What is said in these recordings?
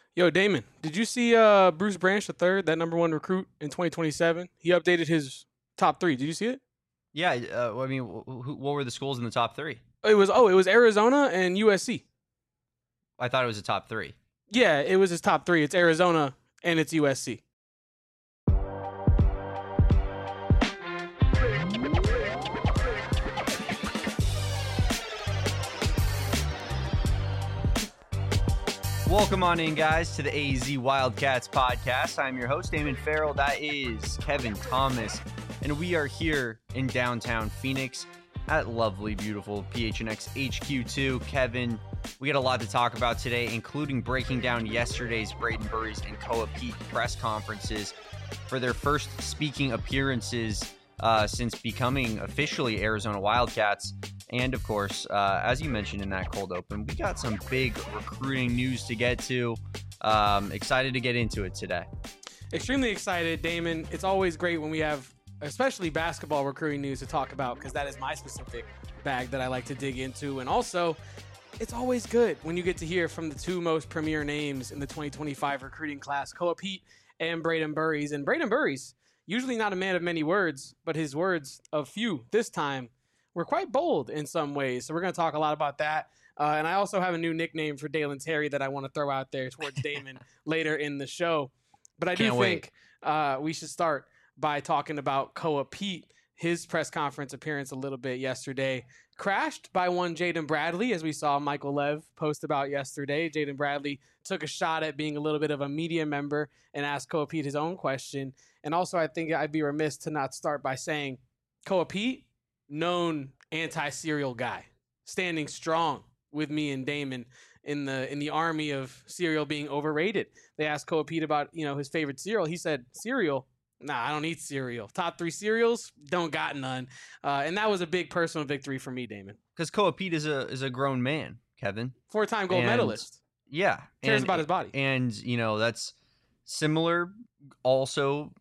Yo, Damon, did you see Bruce Branch the third, that number one recruit in 2027? He updated his top three. Did you see it? Yeah, I mean, what were the schools in the top three? It was Arizona and USC. I thought it was the top three. Yeah, it was his top three. It's Arizona and it's USC. Welcome on in, guys, to the AZ Wildcats podcast. I'm your host, Damon Farrell. That is Kevin Thomas, and we are here in downtown Phoenix at lovely, beautiful PHNX HQ2. Kevin, we got a lot to talk about today, including breaking down yesterday's Braden Burries and Koa Pete press conferences for their first speaking appearances since becoming officially Arizona Wildcats. And, of course, as you mentioned in that cold open, we got some big recruiting news to get to. Excited to get into it today. Extremely excited, Damon. It's always great when we have, especially basketball recruiting news to talk about, because that is my specific bag that I like to dig into. And also, it's always good when you get to hear from the two most premier names in the 2025 recruiting class, Koa Pete and Braden Burries. And Braden Burries, usually not a man of many words, but his words of few this time were quite bold in some ways. So we're going to talk a lot about that. And I also have a new nickname for Dalen Terry that I want to throw out there towards Damon later in the show. But I do think we should start by talking about Koa Pete. His press conference appearance a little bit yesterday crashed by one Jaden Bradley, as we saw Michael Lev post about yesterday. Jaden Bradley took a shot at being a little bit of a media member and asked Koa Pete his own question. And also, I think I'd be remiss to not start by saying Koa Pete, known anti-cereal guy, standing strong with me and Damon in the army of cereal being overrated. They asked Koa Pete about his favorite cereal. He said, cereal? Nah, I don't eat cereal. Top three cereals? Don't got none. And that was a big personal victory for me, Damon. Because Koa Pete is a grown man, Kevin. 4-time gold medalist. Yeah. Cares about his body. And, that's similar also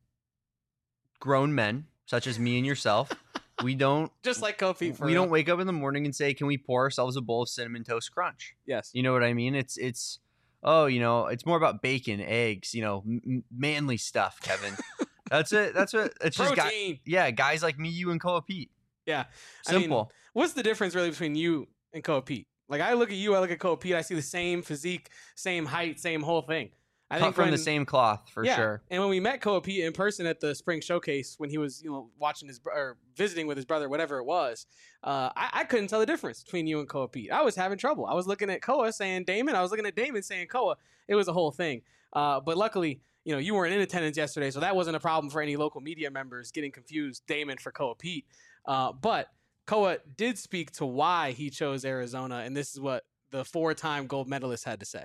grown men, such as me and yourself. We don't just like Koa Pete. We don't wake up in the morning and say, "Can we pour ourselves a bowl of Cinnamon Toast Crunch?" Yes. You know what I mean? It's more about bacon, eggs, manly stuff, Kevin. That's it. That's what it's protein. Just guys like me, you, and Koa Pete. Yeah. Simple. I mean, what's the difference really between you and Koa Pete? Like, I look at you, I look at Koa Pete, I see the same physique, same height, same whole thing. I think from the same cloth for sure. And when we met Koa Pete in person at the spring showcase, when he was watching or visiting with his brother, whatever it was, I couldn't tell the difference between you and Koa Pete. I was having trouble. I was looking at Koa saying Damon. I was looking at Damon saying Koa. It was a whole thing. But luckily, you weren't in attendance yesterday, so that wasn't a problem for any local media members getting confused Damon for Koa Pete. But Koa did speak to why he chose Arizona, and this is what the 4-time gold medalist had to say.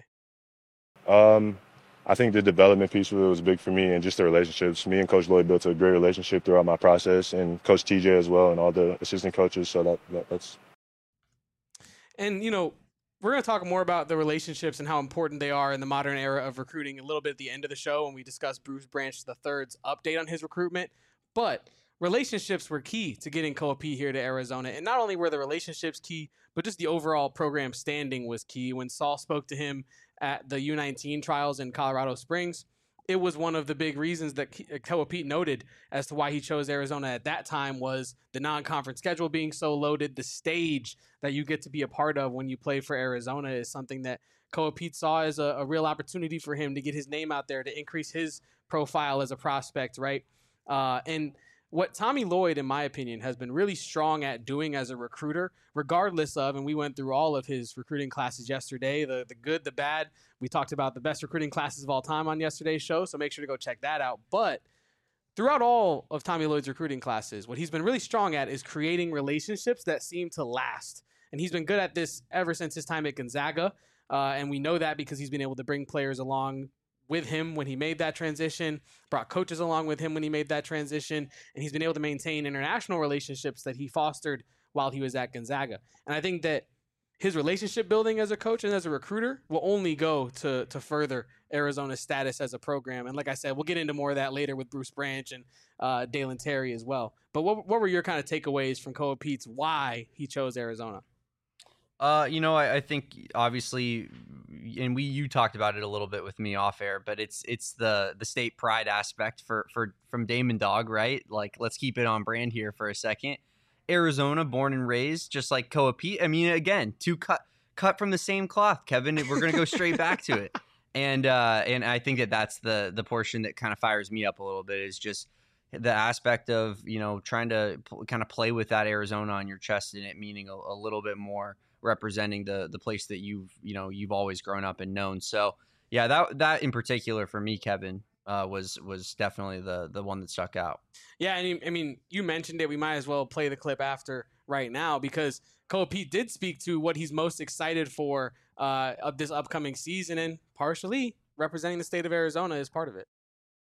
I think the development piece of it was big for me, and just the relationships. Me and Coach Lloyd built a great relationship throughout my process, and Coach TJ as well, and all the assistant coaches. So that's. And we're going to talk more about the relationships and how important they are in the modern era of recruiting a little bit at the end of the show when we discuss Bruce Branch III's update on his recruitment. But relationships were key to getting Koa Pete here to Arizona, and not only were the relationships key, but just the overall program standing was key. When Saul spoke to him at the U19 trials in Colorado Springs, it was one of the big reasons that Koa Pete noted as to why he chose Arizona at that time was the non-conference schedule being so loaded. The stage that you get to be a part of when you play for Arizona is something that Koa Pete saw as a real opportunity for him to get his name out there, to increase his profile as a prospect, right? And what Tommy Lloyd, in my opinion, has been really strong at doing as a recruiter, regardless of, and we went through all of his recruiting classes yesterday, the good, the bad. We talked about the best recruiting classes of all time on yesterday's show, so make sure to go check that out. But throughout all of Tommy Lloyd's recruiting classes, what he's been really strong at is creating relationships that seem to last. And he's been good at this ever since his time at Gonzaga. And we know that because he's been able to bring players along with him when he made that transition, brought coaches along with him when he made that transition, and he's been able to maintain international relationships that he fostered while he was at Gonzaga. And I think that his relationship building as a coach and as a recruiter will only go to further Arizona's status as a program. And like I said, we'll get into more of that later with Bruce Branch and Dalen Terry as well. But what were your kind of takeaways from Koa Pete's why he chose Arizona? I think obviously, and you talked about it a little bit with me off air, but it's the state pride aspect from Damon Dog, right? Like, let's keep it on brand here for a second. Arizona, born and raised, just like Koa Pete. I mean, again, two cut from the same cloth, Kevin. We're gonna go straight back to it, and I think that's the portion that kind of fires me up a little bit, is just the aspect of trying to kind of play with that Arizona on your chest, and it meaning a little bit more, representing the place that you've always grown up and known. So yeah, that in particular for me, Kevin, was definitely the one that stuck out. Yeah, and I mean, you mentioned it. We might as well play the clip after right now, because Koa Pete did speak to what he's most excited for of this upcoming season, and partially representing the state of Arizona is part of it.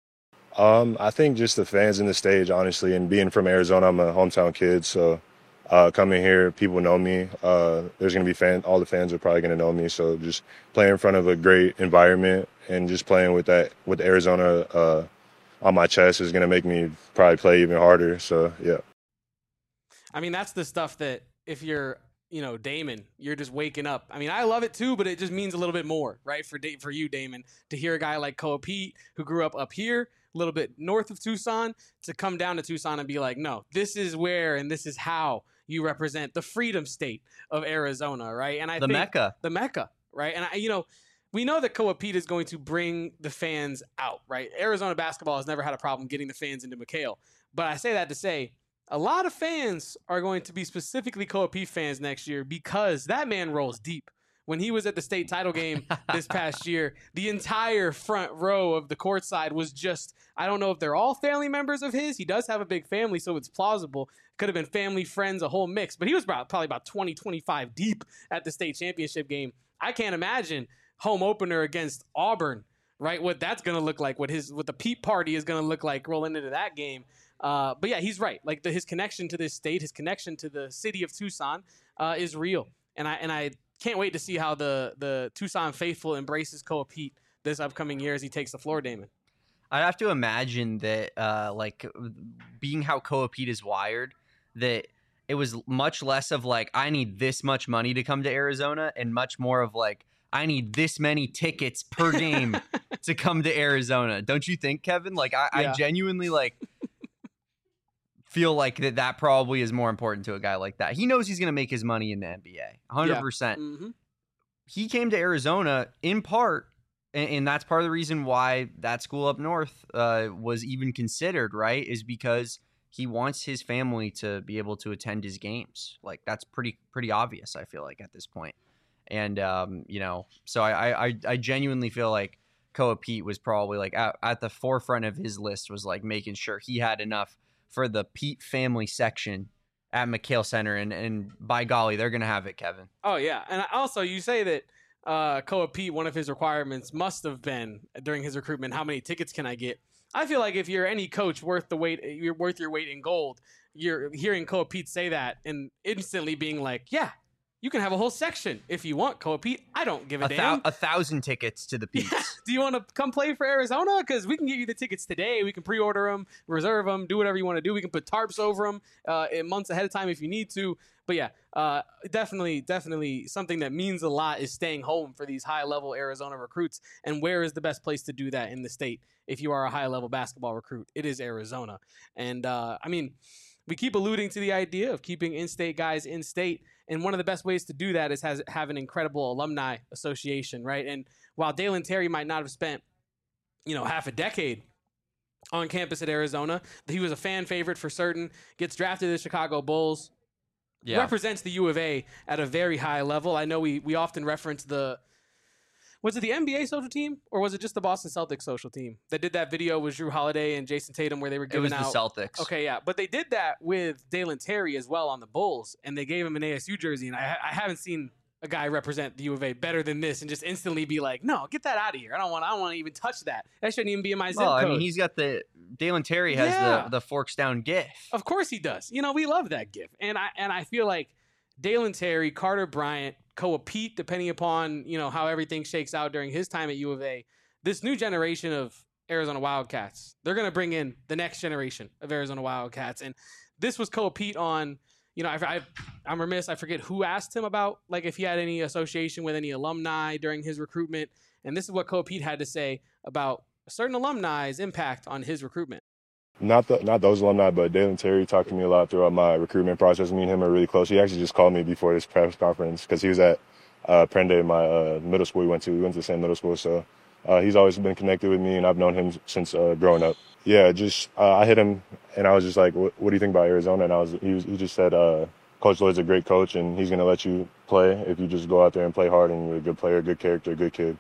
I think just the fans in the stage, honestly, and being from Arizona, I'm a hometown kid, so coming here, people know me. There's going to be all the fans are probably going to know me. So just playing in front of a great environment and just playing with Arizona on my chest is going to make me probably play even harder. So, yeah. I mean, that's the stuff that if you're, Damon, you're just waking up. I mean, I love it too, but it just means a little bit more, right? For you, Damon, to hear a guy like Koa Pete, who grew up here, a little bit north of Tucson, to come down to Tucson and be like, no, this is where and this is how you represent the freedom state of Arizona, right? And I think the Mecca, right? And we know that Koa Pete is going to bring the fans out, right? Arizona basketball has never had a problem getting the fans into McKale, but I say that to say a lot of fans are going to be specifically Koa Pete fans next year, because that man rolls deep. When he was at the state title game this past year, the entire front row of the courtside was just, I don't know if they're all family members of his. He does have a big family, so it's plausible. Could have been family, friends, a whole mix. But he was probably about 20, 25 deep at the state championship game. I can't imagine home opener against Auburn, right? What that's going to look like, what the Pete party is going to look like rolling into that game. But yeah, he's right. Like his connection to this state, his connection to the city of Tucson is real. And I can't wait to see how the Tucson faithful embraces Koa Pete this upcoming year as he takes the floor, Damon. I'd have to imagine that, being how Koa Pete is wired, that it was much less of like, I need this much money to come to Arizona, and much more of like, I need this many tickets per game to come to Arizona. Don't you think, Kevin? Like, I genuinely feel like that probably is more important to a guy like that. He knows he's going to make his money in the NBA, 100%. Yeah. Mm-hmm. He came to Arizona in part, and that's part of the reason why that school up north was even considered, right, is because he wants his family to be able to attend his games. Like, that's pretty obvious, I feel like, at this point. And, so I genuinely feel like Koa Pete was probably like at the forefront of his list, was like making sure he had enough for the Pete family section at McKale Center, and by golly, they're going to have it, Kevin. Oh, yeah. And also, you say that Koa Pete, one of his requirements must have been during his recruitment, how many tickets can I get? I feel like if you're any coach worth your weight in gold, you're hearing Koa Pete say that and instantly being like, yeah, you can have a whole section if you want, Koa Pete. I don't give a damn. 1,000 tickets to the Petes. Yeah. Do you want to come play for Arizona? Because we can get you the tickets today. We can pre-order them, reserve them, do whatever you want to do. We can put tarps over them in months ahead of time if you need to. But yeah, definitely something that means a lot is staying home for these high-level Arizona recruits. And where is the best place to do that in the state if you are a high-level basketball recruit? It is Arizona. And, we keep alluding to the idea of keeping in-state guys in-state. And one of the best ways to do that is have an incredible alumni association, right? And while Dalen Terry might not have spent, half a decade on campus at Arizona, he was a fan favorite for certain, gets drafted to the Chicago Bulls, represents the U of A at a very high level. I know we often reference was it the NBA social team, or was it just the Boston Celtics social team that did that video with Jrue Holiday and Jason Tatum where they were giving out? It was the Celtics. Okay, yeah. But they did that with Dalen Terry as well on the Bulls, and they gave him an ASU jersey, and I haven't seen a guy represent the U of A better than this and just instantly be like, no, get that out of here. I don't want to even touch that. That shouldn't even be in my zip code. I mean, he's got Dalen Terry has the forks down gif. Of course he does. We love that gif. And I feel like Dalen Terry, Carter Bryant, Koa Pete, depending upon, how everything shakes out during his time at U of A, this new generation of Arizona Wildcats, they're going to bring in the next generation of Arizona Wildcats. And this was Koa Pete on, you know, I'm remiss. I forget who asked him about like if he had any association with any alumni during his recruitment, and this is what Koa Pete had to say about a certain alumni's impact on his recruitment. Not those alumni, but Dalen Terry talked to me a lot throughout my recruitment process. Me and him are really close. He actually just called me before this press conference because he was at Prende, my middle school we went to. We went to the same middle school, so he's always been connected with me, and I've known him since growing up. Yeah, just I hit him, and I was just like, "What do you think about Arizona?" And he just said, "Coach Lloyd's a great coach, and he's going to let you play if you just go out there and play hard, and you're a good player, good character, good kid."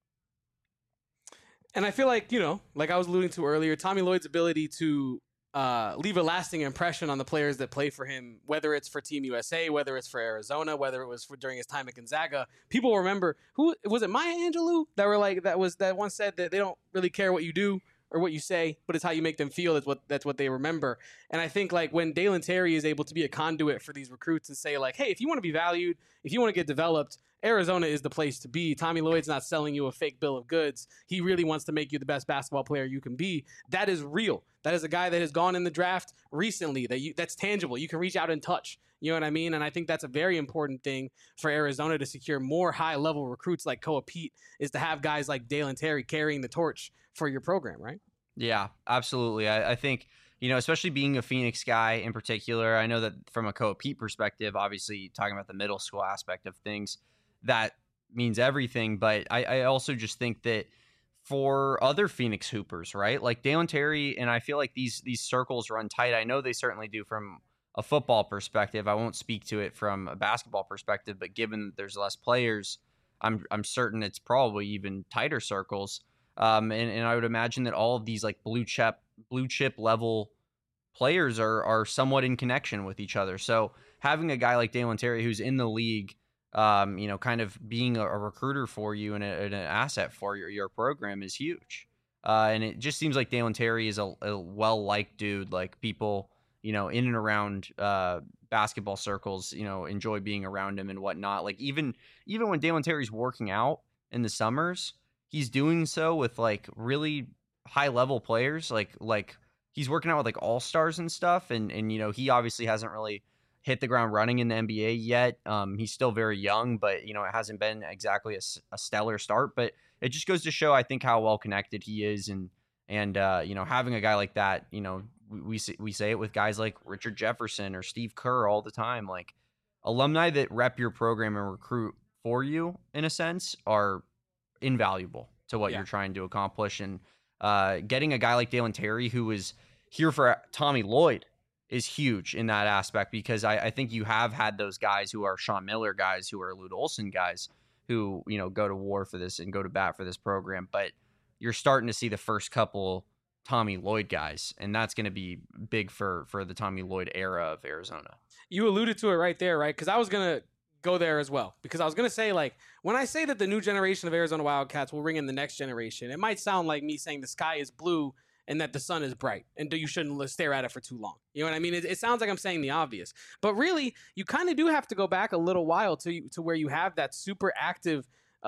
And I feel like, you know, like I was alluding to earlier, Tommy Lloyd's ability to leave a lasting impression on the players that play for him, whether it's for Team USA, whether it's for Arizona, whether it was during his time at Gonzaga. People remember, who was it, Maya Angelou, that once said that they don't really care what you do or what you say, but it's how you make them feel. That's what they remember. And I think like when Dalen Terry is able to be a conduit for these recruits and say like, hey, if you want to be valued, if you want to get developed, Arizona is the place to be. Tommy Lloyd's not selling you a fake bill of goods. He really wants to make you the best basketball player you can be. That is real. That is a guy that has gone in the draft recently. That's tangible. You can reach out and touch. You know what I mean? And I think that's a very important thing for Arizona to secure more high-level recruits like Koa Pete, is to have guys like Dalen Terry carrying the torch for your program, right? Yeah, absolutely. I think, you know, especially being a Phoenix guy in particular, I know that from a Koa Pete perspective, obviously talking about the middle school aspect of things, that means everything. But I also just think that for other Phoenix Hoopers, right? Like Dalen Terry, and I feel like these circles run tight. I know they certainly do from a football perspective. I won't speak to it from a basketball perspective, but given that there's less players, I'm certain it's probably even tighter circles. And I would imagine that all of these like blue chip level players are somewhat in connection with each other. So having a guy like Dalen Terry who's in the league, you know, kind of being a recruiter for you and an asset for your program is huge. And it just seems like Dalen Terry is a well-liked dude. Like people, you know, in and around basketball circles, you know, enjoy being around him and whatnot. Like even when Dalen Terry's working out in the summers, he's doing so with like really high-level players. Like he's working out with like all-stars and stuff. And you know, he obviously hasn't really hit the ground running in the NBA yet. He's still very young, but you know, it hasn't been exactly a stellar start, but it just goes to show, I think, how well connected he is. And you know, having a guy like that, you know, we say it with guys like Richard Jefferson or Steve Kerr all the time, like alumni that rep your program and recruit for you in a sense are invaluable to what you're trying to accomplish. And getting a guy like Dalen Terry, who is here for Tommy Lloyd, is huge in that aspect, because I think you have had those guys who are Sean Miller guys, who are Lute Olson guys, who, you know, go to war for this and go to bat for this program. But you're starting to see the first couple Tommy Lloyd guys, and that's going to be big for the Tommy Lloyd era of Arizona. You alluded to it right there, right? Because I was going to go there as well, because I was going to say, like, when I say that the new generation of Arizona Wildcats will ring in the next generation, it might sound like me saying the sky is blue and that the sun is bright and you shouldn't stare at it for too long. You know what I mean? It sounds like I'm saying the obvious, but really you kind of do have to go back a little while to where you have that super active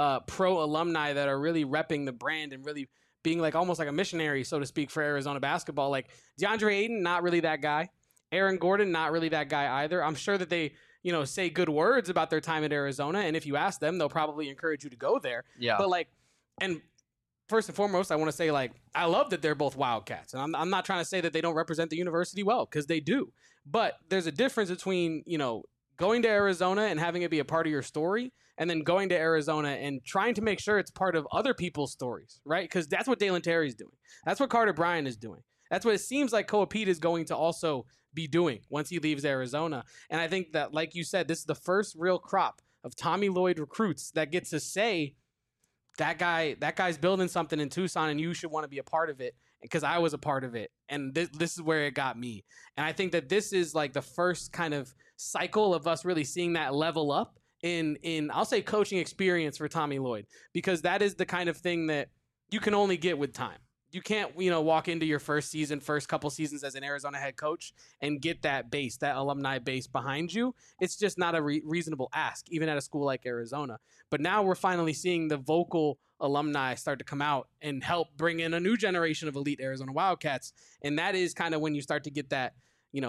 pro alumni that are really repping the brand and really being like almost like a missionary, so to speak, for Arizona basketball. Like DeAndre Ayton, not really that guy. Aaron Gordon, not really that guy either. I'm sure that they, you know, say good words about their time at Arizona, and if you ask them, they'll probably encourage you to go there. Yeah. But like, and first and foremost, I want to say, like, I love that they're both Wildcats. And I'm not trying to say that they don't represent the university well, because they do. But there's a difference between, you know, going to Arizona and having it be a part of your story, and then going to Arizona and trying to make sure it's part of other people's stories, right? Because that's what Dalen Terry's doing. That's what Carter Bryant is doing. That's what it seems like Koa Pete is going to also be doing once he leaves Arizona. And I think that, like you said, this is the first real crop of Tommy Lloyd recruits that gets to say, that guy's building something in Tucson, and you should want to be a part of it, because I was a part of it, and this is where it got me. And I think that this is like the first kind of cycle of us really seeing that level up in I'll say coaching experience for Tommy Lloyd, because that is the kind of thing that you can only get with time. You can't, you know, walk into your first couple seasons as an Arizona head coach and get that base, that alumni base behind you. It's just not a reasonable ask, even at a school like Arizona. But now we're finally seeing the vocal alumni start to come out and help bring in a new generation of elite Arizona Wildcats. And that is kind of when you start to get that, you know,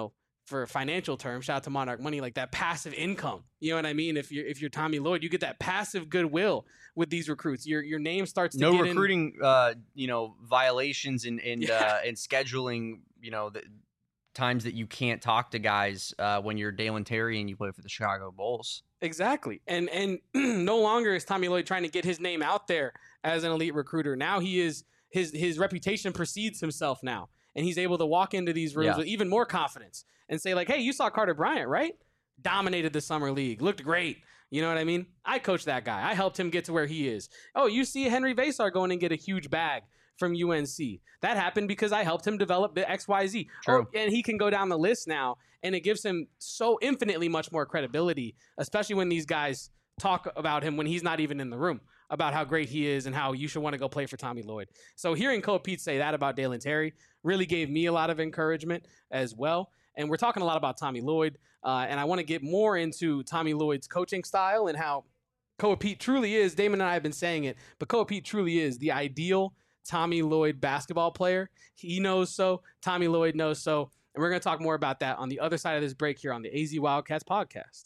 for financial terms, shout out to Monarch Money, like that passive income. You know what I mean? If you're Tommy Lloyd, you get that passive goodwill with these recruits. Your name starts to no get recruiting, violations and scheduling. The times that you can't talk to guys when you're Dalen Terry and you play for the Chicago Bulls. Exactly. And no longer is Tommy Lloyd trying to get his name out there as an elite recruiter. Now he is his reputation precedes himself now. And he's able to walk into these rooms with even more confidence and say, like, hey, you saw Carter Bryant, right? Dominated the summer league. Looked great. You know what I mean? I coached that guy. I helped him get to where he is. Oh, you see Henry Vasar going and get a huge bag from UNC. That happened because I helped him develop the XYZ. True. Oh, and he can go down the list now, and it gives him so infinitely much more credibility, especially when these guys talk about him when he's not even in the room, about how great he is and how you should want to go play for Tommy Lloyd. So hearing Koa Pete say that about Dalen Terry really gave me a lot of encouragement as well. And we're talking a lot about Tommy Lloyd, and I want to get more into Tommy Lloyd's coaching style and how Koa Pete truly is, Damon and I have been saying it, but Koa Pete truly is the ideal Tommy Lloyd basketball player. He knows so. Tommy Lloyd knows so. And we're going to talk more about that on the other side of this break here on the AZ Wildcats podcast.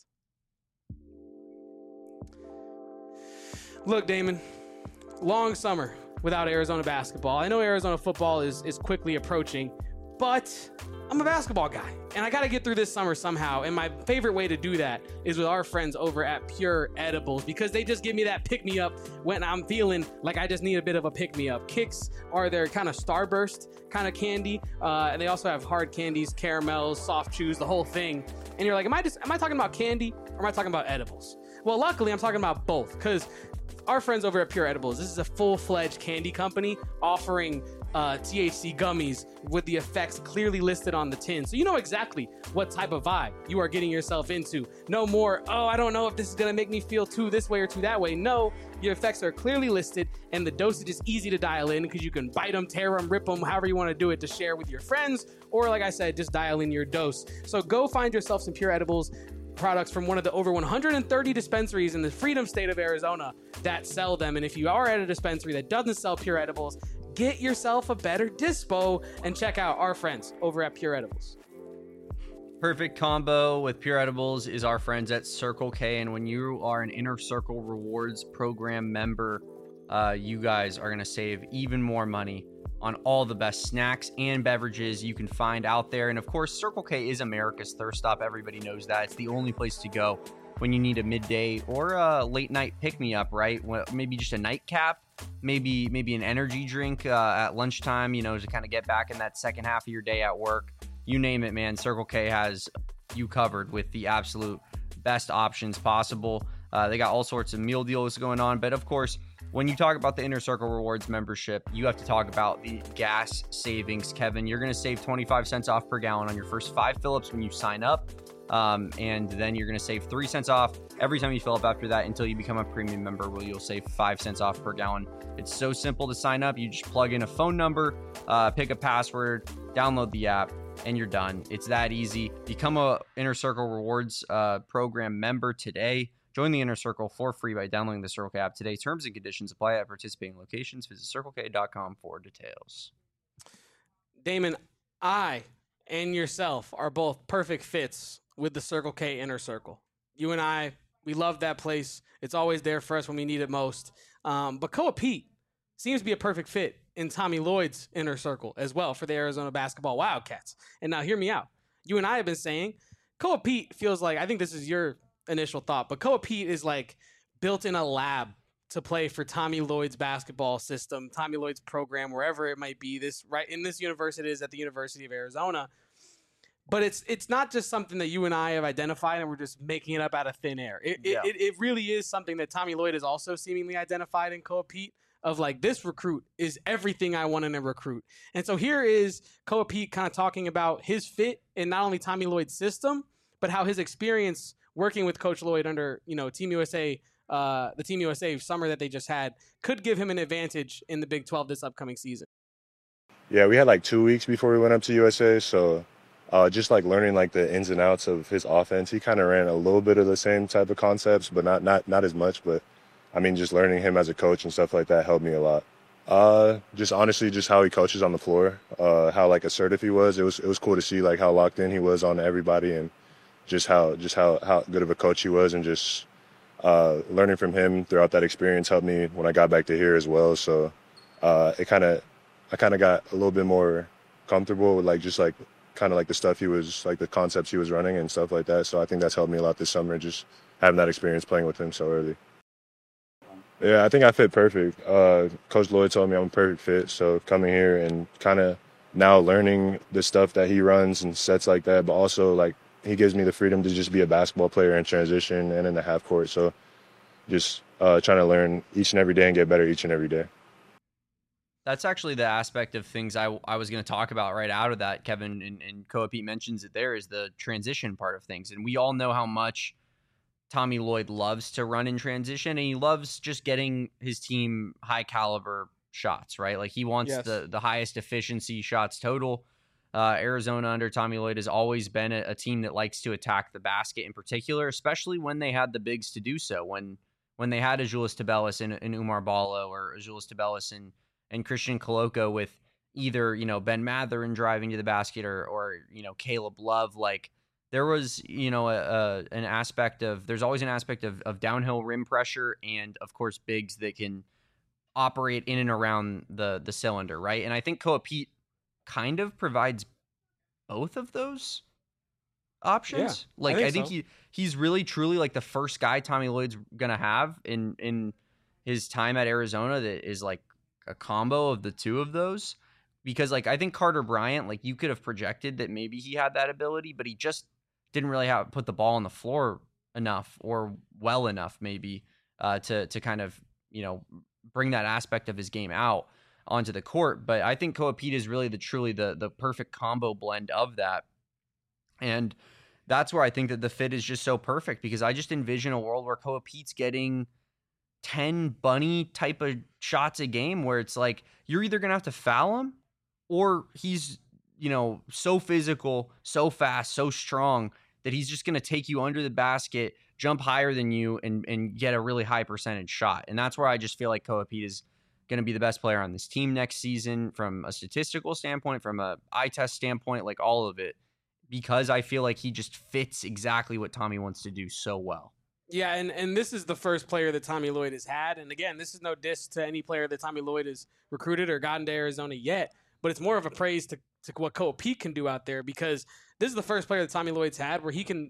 Look, Damon, long summer without Arizona basketball. I know Arizona football is quickly approaching, but I'm a basketball guy, and I got to get through this summer somehow. And my favorite way to do that is with our friends over at Pure Edibles, because they just give me that pick-me-up when I'm feeling like I just need a bit of a pick-me-up. Kicks are their kind of starburst kind of candy, and they also have hard candies, caramels, soft chews, the whole thing. And you're like, am I talking about candy or am I talking about edibles? Well, luckily, I'm talking about both, because our friends over at Pure Edibles, this is a full-fledged candy company offering THC gummies with the effects clearly listed on the tin. So you know exactly what type of vibe you are getting yourself into. No more, oh, I don't know if this is going to make me feel too this way or too that way. No, your effects are clearly listed, and the dosage is easy to dial in because you can bite them, tear them, rip them, however you want to do it to share with your friends. Or like I said, just dial in your dose. So go find yourself some Pure Edibles products from one of the over 130 dispensaries in the Freedom State of Arizona that sell them. And if you are at a dispensary that doesn't sell Pure Edibles, get yourself a better dispo and check out our friends over at Pure Edibles. Perfect combo with Pure Edibles is our friends at Circle K. And when you are an Inner Circle Rewards program member, you guys are going to save even more money on all the best snacks and beverages you can find out there. And of course, Circle K is America's thirst stop. Everybody knows that. It's the only place to go when you need a midday or a late night pick-me-up, right? Maybe just a nightcap, maybe an energy drink at lunchtime, to kind of get back in that second half of your day at work. You name it, man. Circle K has you covered with the absolute best options possible. They got all sorts of meal deals going on. But of course, when you talk about the Inner Circle Rewards membership, you have to talk about the gas savings, Kevin. You're going to save 25 cents off per gallon on your first 5 fill-ups when you sign up. And then you're going to save 3 cents off every time you fill up after that until you become a premium member, where you'll save 5 cents off per gallon. It's so simple to sign up. You just plug in a phone number, pick a password, download the app, and you're done. It's that easy. Become a Inner Circle Rewards program member today. Join the Inner Circle for free by downloading the Circle K app today. Terms and conditions apply at participating locations. Visit CircleK.com for details. Damon, I and yourself are both perfect fits with the Circle K Inner Circle. You and I, we love that place. It's always there for us when we need it most. But Koa Pete seems to be a perfect fit in Tommy Lloyd's Inner Circle as well for the Arizona basketball Wildcats. And now hear me out. You and I have been saying Koa Pete feels like, I think this is your initial thought, but Koa Pete is like built in a lab to play for Tommy Lloyd's basketball system, Tommy Lloyd's program, wherever it might be. This right in this universe, it is at the University of Arizona. But it's not just something that you and I have identified and we're just making it up out of thin air. It really is something that Tommy Lloyd has also seemingly identified in Koa Pete, of like, this recruit is everything I want in a recruit. And so here is Koa Pete kind of talking about his fit in not only Tommy Lloyd's system, but how his experience working with Coach Lloyd under, Team USA, the Team USA summer that they just had, could give him an advantage in the Big 12 this upcoming season. Yeah, we had like 2 weeks before we went up to USA, so just like learning like the ins and outs of his offense. He kind of ran a little bit of the same type of concepts, but not as much. But I mean, just learning him as a coach and stuff like that helped me a lot. Just honestly, just how he coaches on the floor, how like assertive he was. It was cool to see like how locked in he was on everybody, and just how good of a coach he was, and just learning from him throughout that experience helped me when I got back to here as well. So I kind of got a little bit more comfortable with like just like kind of like the stuff he was like the concepts he was running and stuff like that. So I think that's helped me a lot this summer, just having that experience playing with him so early. Yeah, I think I fit perfect. Coach Lloyd told me I'm a perfect fit. So coming here and kind of now learning the stuff that he runs and sets like that, but also like he gives me the freedom to just be a basketball player in transition and in the half court. So just trying to learn each and every day and get better each and every day. That's actually the aspect of things I was going to talk about right out of that, Kevin, and Koa Pete mentions it there, is the transition part of things. And we all know how much Tommy Lloyd loves to run in transition, and he loves just getting his team high caliber shots, right? Like he wants Yes. the highest efficiency shots total. Arizona under Tommy Lloyd has always been a team that likes to attack the basket in particular, especially when they had the bigs to do so. When they had Azuolas Tubelis and Umar Ballo, or Azuolas Tubelis and Christian Koloko, with either, Ben Mathurin driving to the basket or Caleb Love, like there was, an aspect of, there's always an aspect of downhill rim pressure, and of course bigs that can operate in and around the cylinder, right? And I think Koa Pete kind of provides both of those options. Yeah, Like I think so. he's really truly like the first guy Tommy Lloyd's gonna have in his time at Arizona that is like a combo of the two of those. Because like I think Carter Bryant, like you could have projected that maybe he had that ability, but he just didn't really have put the ball on the floor enough or well enough maybe to kind of bring that aspect of his game out onto the court. But I think Koa Pete is really truly the perfect combo blend of that. And that's where I think that the fit is just so perfect, because I just envision a world where Koa Pete's getting 10 bunny type of shots a game, where it's like you're either going to have to foul him, or he's, so physical, so fast, so strong that he's just going to take you under the basket, jump higher than you, and get a really high percentage shot. And that's where I just feel like Koa Pete is going to be the best player on this team next season, from a statistical standpoint, from a eye test standpoint, like all of it, because I feel like he just fits exactly what Tommy wants to do so well. Yeah, and this is the first player that Tommy Lloyd has had. And again, this is no diss to any player that Tommy Lloyd has recruited or gotten to Arizona yet, but it's more of a praise to what Koa Pete can do out there, because this is the first player that Tommy Lloyd's had where he can,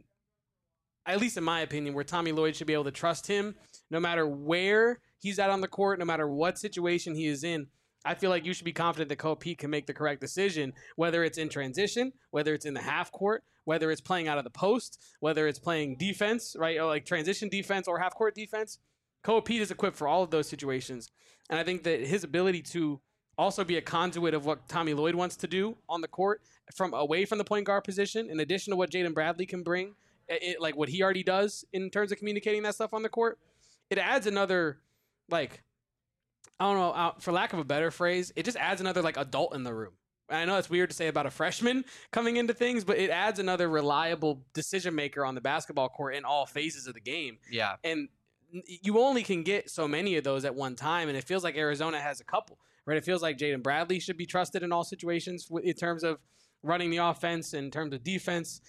at least in my opinion, where Tommy Lloyd should be able to trust him no matter where he's at on the court, no matter what situation he is in. I feel like you should be confident that Koa Pete can make the correct decision, whether it's in transition, whether it's in the half court, whether it's playing out of the post, whether it's playing defense, right? Or like transition defense or half court defense. Koa Pete is equipped for all of those situations. And I think that his ability to also be a conduit of what Tommy Lloyd wants to do on the court, from away from the point guard position, in addition to what Jaden Bradley can bring, like what he already does in terms of communicating that stuff on the court, it adds another, like, I don't know, for lack of a better phrase, it just adds another like adult in the room. And I know it's weird to say about a freshman coming into things, but it adds another reliable decision maker on the basketball court in all phases of the game. Yeah. And you only can get so many of those at one time, and it feels like Arizona has a couple, right? It feels like Jaden Bradley should be trusted in all situations in terms of running the offense, in terms of defense.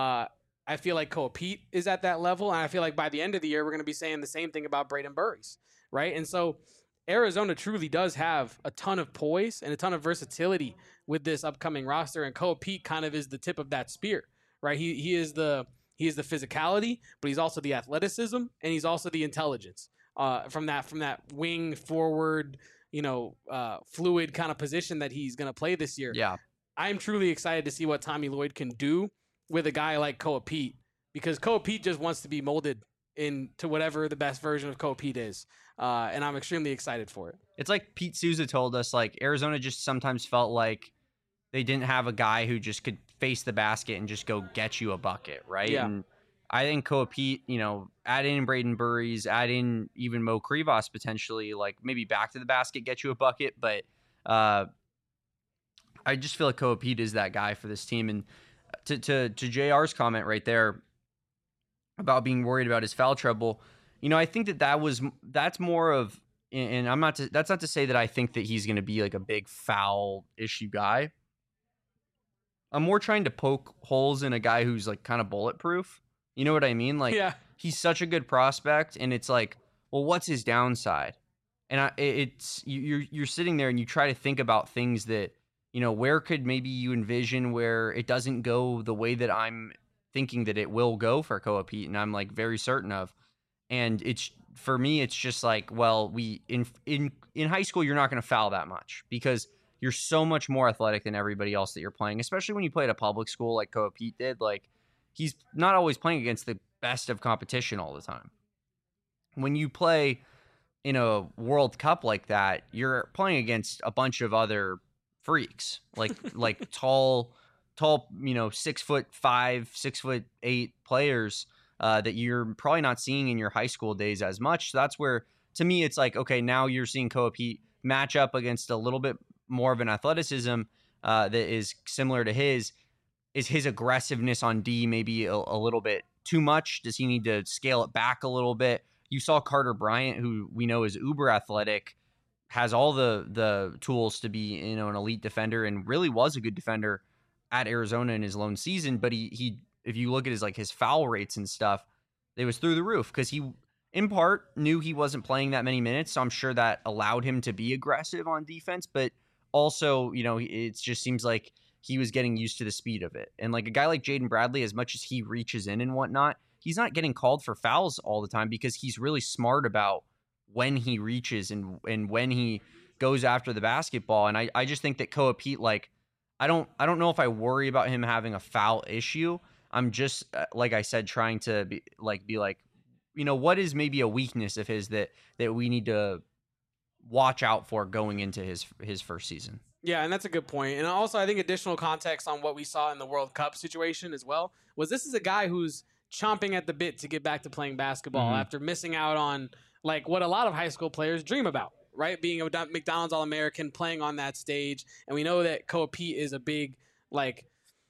I feel like Koa Pete is at that level, and I feel like by the end of the year, we're going to be saying the same thing about Braden Burries, right? And so Arizona truly does have a ton of poise and a ton of versatility with this upcoming roster, and Koa Pete kind of is the tip of that spear, right? He is the physicality, but he's also the athleticism, and he's also the intelligence from that wing forward, fluid kind of position that he's going to play this year. Yeah. I'm truly excited to see what Tommy Lloyd can do with a guy like Koa Pete, because Koa Pete just wants to be molded into whatever the best version of Koa Pete is. And I'm extremely excited for it. It's like Pete Souza told us, like Arizona just sometimes felt like they didn't have a guy who just could face the basket and just go get you a bucket, right? Yeah. And I think Koa Pete, add in Braden Burries, add in even Mo Krivas potentially, like maybe back to the basket, get you a bucket. But I just feel like Koa Pete is that guy for this team. And to JR's comment right there about being worried about his foul trouble, I think that's more of and that's not to say that I think that he's going to be like a big foul issue guy. I'm more trying to poke holes in a guy who's like kind of bulletproof. You know what I mean? Like, Yeah. he's such a good prospect, and it's like, well, what's his downside? And you're sitting there and you try to think about things that, where could maybe you envision where it doesn't go the way that I'm thinking that it will go for Koa Pete, and I'm like very certain of. And it's, for me, it's just like, well, in high school, you're not going to foul that much because you're so much more athletic than everybody else that you're playing, especially when you play at a public school like Koa Pete did. Like, he's not always playing against the best of competition all the time. When you play in a World Cup like that, you're playing against a bunch of other freaks, like tall, 6'5", 6'8" players that you're probably not seeing in your high school days as much. So that's where, to me, it's like, okay, now you're seeing Koa Pete match up against a little bit more of an athleticism that is similar to his. Is his aggressiveness on D maybe a little bit too much? Does he need to scale it back a little bit? You saw Carter Bryant, who we know is uber athletic, has all the tools to be, an elite defender, and really was a good defender at Arizona in his lone season. But he if you look at his foul rates and stuff, it was through the roof because he, in part, knew he wasn't playing that many minutes. So I'm sure that allowed him to be aggressive on defense. But also, it just seems like he was getting used to the speed of it. And like a guy like Jaden Bradley, as much as he reaches in and whatnot, he's not getting called for fouls all the time because he's really smart about when he reaches and when he goes after the basketball. And I just think that Koa Pete, like, I don't know if I worry about him having a foul issue. I'm just, like I said, trying to be like, what is maybe a weakness of his that we need to watch out for going into his first season. Yeah, and that's a good point. And also, I think additional context on what we saw in the World Cup situation as well was this is a guy who's chomping at the bit to get back to playing basketball after missing out on like what a lot of high school players dream about, right? Being a McDonald's All-American, playing on that stage. And we know that Koa Pete is a big, like,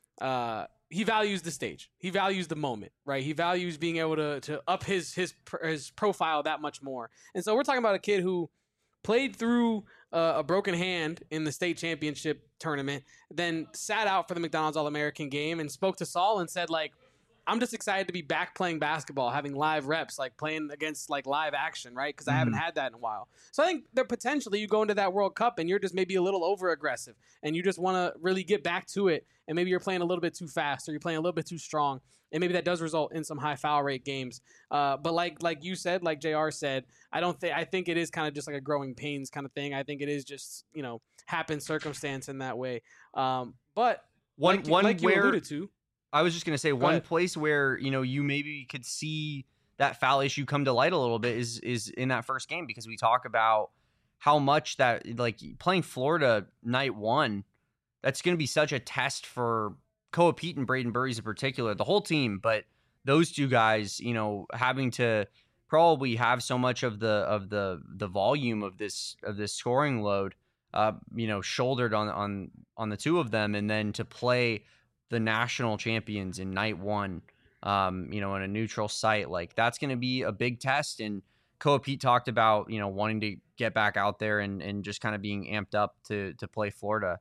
he values the stage. He values the moment, right? He values being able to up his profile that much more. And so we're talking about a kid who played through a broken hand in the state championship tournament, then sat out for the McDonald's All-American game and spoke to Saul and said, like, I'm just excited to be back playing basketball, having live reps, like playing against like live action, right? Because I haven't had that in a while. So I think that potentially you go into that World Cup and you're just maybe a little over aggressive and you just want to really get back to it. And maybe you're playing a little bit too fast or you're playing a little bit too strong. And maybe that does result in some high foul rate games. But like you said, like JR said, I think it is kind of just like a growing pains kind of thing. I think it is just, happen circumstance in that way. But one you alluded to, I was just going to say one place where, you maybe could see that foul issue come to light a little bit is in that first game, because we talk about how much that, like, playing Florida night one, that's going to be such a test for Koa Pete and Braden Burries in particular, the whole team, but those two guys, having to probably have so much of the volume of this scoring load, shouldered on the two of them, and then to play the national champions in night one, in a neutral site, like that's going to be a big test. And Koa Pete talked about, wanting to get back out there and just kind of being amped up to play Florida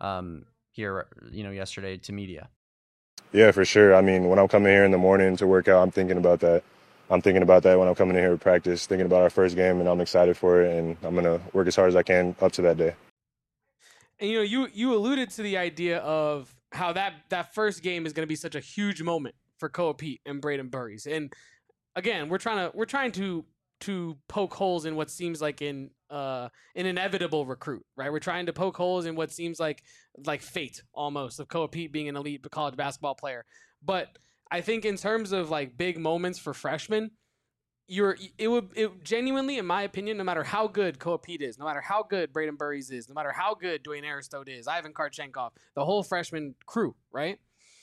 here, yesterday to media. Yeah, for sure. I mean, when I'm coming here in the morning to work out, I'm thinking about that. I'm thinking about that when I'm coming in here to practice, thinking about our first game, and I'm excited for it, and I'm going to work as hard as I can up to that day. And, you alluded to the idea of how that first game is going to be such a huge moment for Koa Pete and Braden Burries. And again, we're trying to poke holes in what seems like an inevitable recruit, right? We're trying to poke holes in what seems like fate almost of Koa Pete being an elite college basketball player. But I think in terms of like big moments for freshmen, it genuinely, in my opinion, no matter how good Koa Pete is, no matter how good Braden Burries is, no matter how good Dwayne Aristote is, Ivan Karchenkov, the whole freshman crew, right?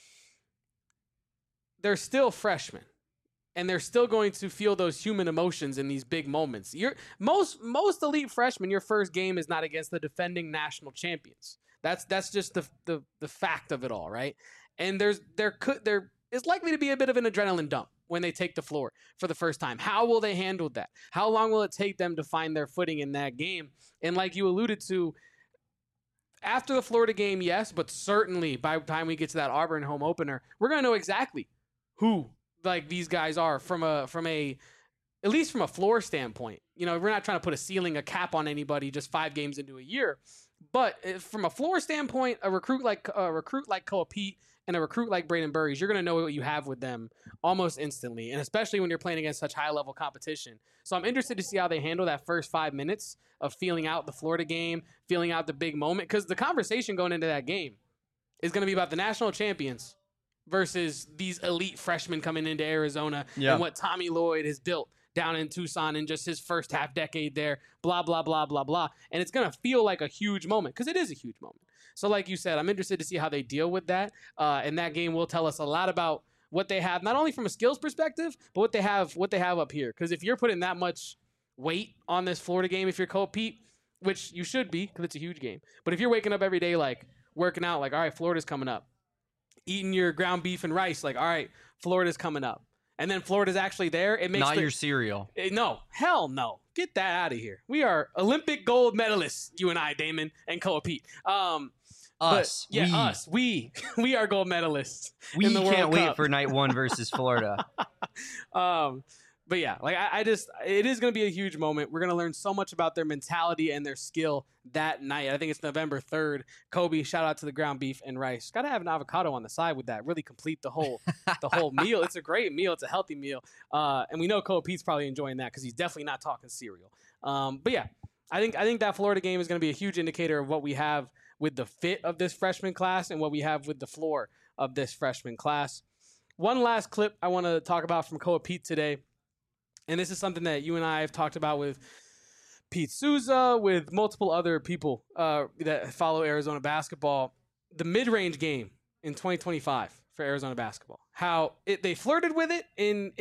They're still freshmen. And they're still going to feel those human emotions in these big moments. Most elite freshmen, your first game is not against the defending national champions. That's just the fact of it all, right? And there is likely to be a bit of an adrenaline dump when they take the floor for the first time? How will they handle that? How long will it take them to find their footing in that game? And like you alluded to, after the Florida game, yes, but certainly by the time we get to that Auburn home opener, we're going to know exactly who like these guys are from a at least from a floor standpoint. You know, we're not trying to put a cap on anybody just 5 games into a year, but from a floor standpoint, a recruit like Koa Pete and a recruit like Braden Burries, you're going to know what you have with them almost instantly, and especially when you're playing against such high-level competition. So I'm interested to see how they handle that first 5 minutes of feeling out the Florida game, feeling out the big moment, because the conversation going into that game is going to be about the national champions versus these elite freshmen coming into Arizona and what Tommy Lloyd has built down in Tucson in just his first half decade there, blah, blah, blah, blah, blah. And it's going to feel like a huge moment because it is a huge moment. So like you said, I'm interested to see how they deal with that. And that game will tell us a lot about what they have, not only from a skills perspective, but what they have up here. Because if you're putting that much weight on this Florida game, if you're Koa Pete, which you should be because it's a huge game. But if you're waking up every day like working out, like, all right, Florida's coming up. Eating your ground beef and rice, like, all right, Florida's coming up. And then Florida's actually there. It makes your cereal. No, hell no. Get that out of here. We are Olympic gold medalists, you and I, Damon, and Koa Pete. Us. Us. We are gold medalists. We in the can't World wait Cup. for night 1 versus Florida. But yeah, like it is going to be a huge moment. We're going to learn so much about their mentality and their skill that night. I think it's November 3rd. Kobe, shout out to the ground beef and rice. Got to have an avocado on the side with that. Really complete the whole meal. It's a great meal. It's a healthy meal. And we know Koa Pete's probably enjoying that because he's definitely not talking cereal. But yeah, I think that Florida game is going to be a huge indicator of what we have with the fit of this freshman class and what we have with the floor of this freshman class. One last clip I want to talk about from Koa Pete today. And this is something that you and I have talked about with Pete Souza, with multiple other people that follow Arizona basketball. The mid-range game in 2025 for Arizona basketball. How they flirted with it in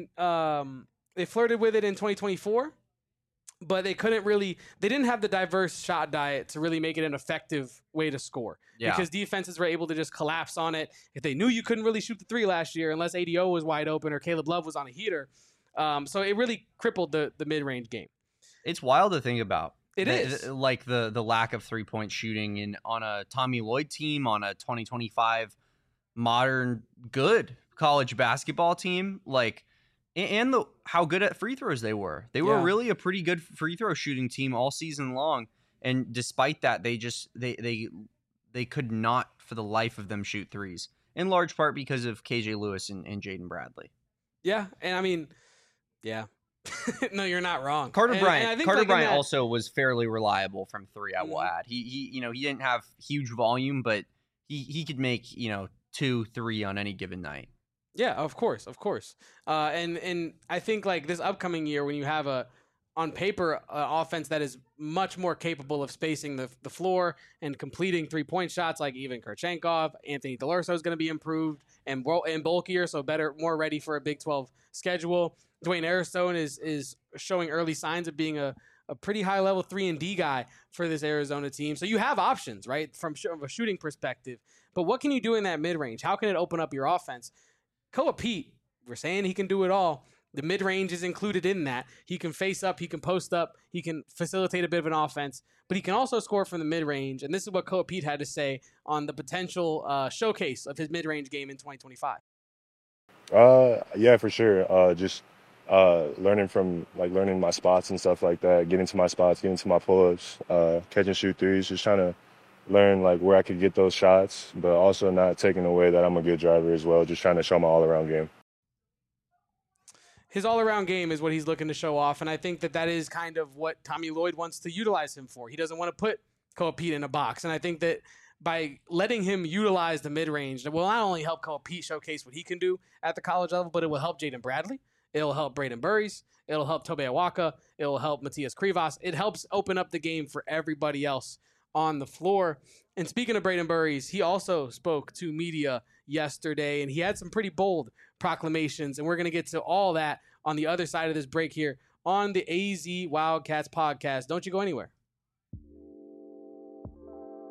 2024, but they didn't have the diverse shot diet to really make it an effective way to score. Yeah. Because defenses were able to just collapse on it. If they knew you couldn't really shoot the 3 last year unless ADO was wide open or Caleb Love was on a heater. So it really crippled the mid-range game. It's wild to think about. It is. Like the lack of 3-point shooting on a Tommy Lloyd team, on a 2025 modern good college basketball team, like, and how good at free throws they were. They were really a pretty good free throw shooting team all season long. And despite that, they could not for the life of them shoot threes, in large part because of KJ Lewis and Jaden Bradley. Yeah. And I mean, yeah. No, you're not wrong. Carter Bryant Bryant also was fairly reliable from 3, I will add. He didn't have huge volume, but he could make, 2, 3 on any given night. Yeah, of course. And I think like this upcoming year, when you have on paper offense that is much more capable of spacing the floor and completing 3-point shots, like even Kurchenkov, Anthony DeLurso is going to be improved and bulkier, so better, more ready for a Big 12 schedule. Dwayne Airstone is showing early signs of being a pretty high-level 3-and-D guy for this Arizona team. So you have options, right, from a shooting perspective. But what can you do in that mid-range? How can it open up your offense? Koa Pete, we're saying he can do it all. The mid-range is included in that. He can face up, he can post up, he can facilitate a bit of an offense, but he can also score from the mid-range. And this is what Koa Pete had to say on the potential showcase of his mid-range game in 2025. Yeah, for sure. Just learning my spots and stuff like that, getting to my spots, getting to my pull-ups, catch and shoot threes, just trying to learn like where I could get those shots, but also not taking away that I'm a good driver as well, just trying to show my all-around game. His all-around game is what he's looking to show off, and I think that is kind of what Tommy Lloyd wants to utilize him for. He doesn't want to put Koa Pete in a box, and I think that by letting him utilize the mid-range, it will not only help Koa Pete showcase what he can do at the college level, but it will help Jaden Bradley. It'll help Braden Burries. It'll help Tobe Awaka. It'll help Matias Krivas. It helps open up the game for everybody else on the floor. And speaking of Braden Burries, he also spoke to media yesterday, and he had some pretty bold proclamations, and we're going to get to all that on the other side of this break here on the AZ Wildcats podcast. Don't you go anywhere.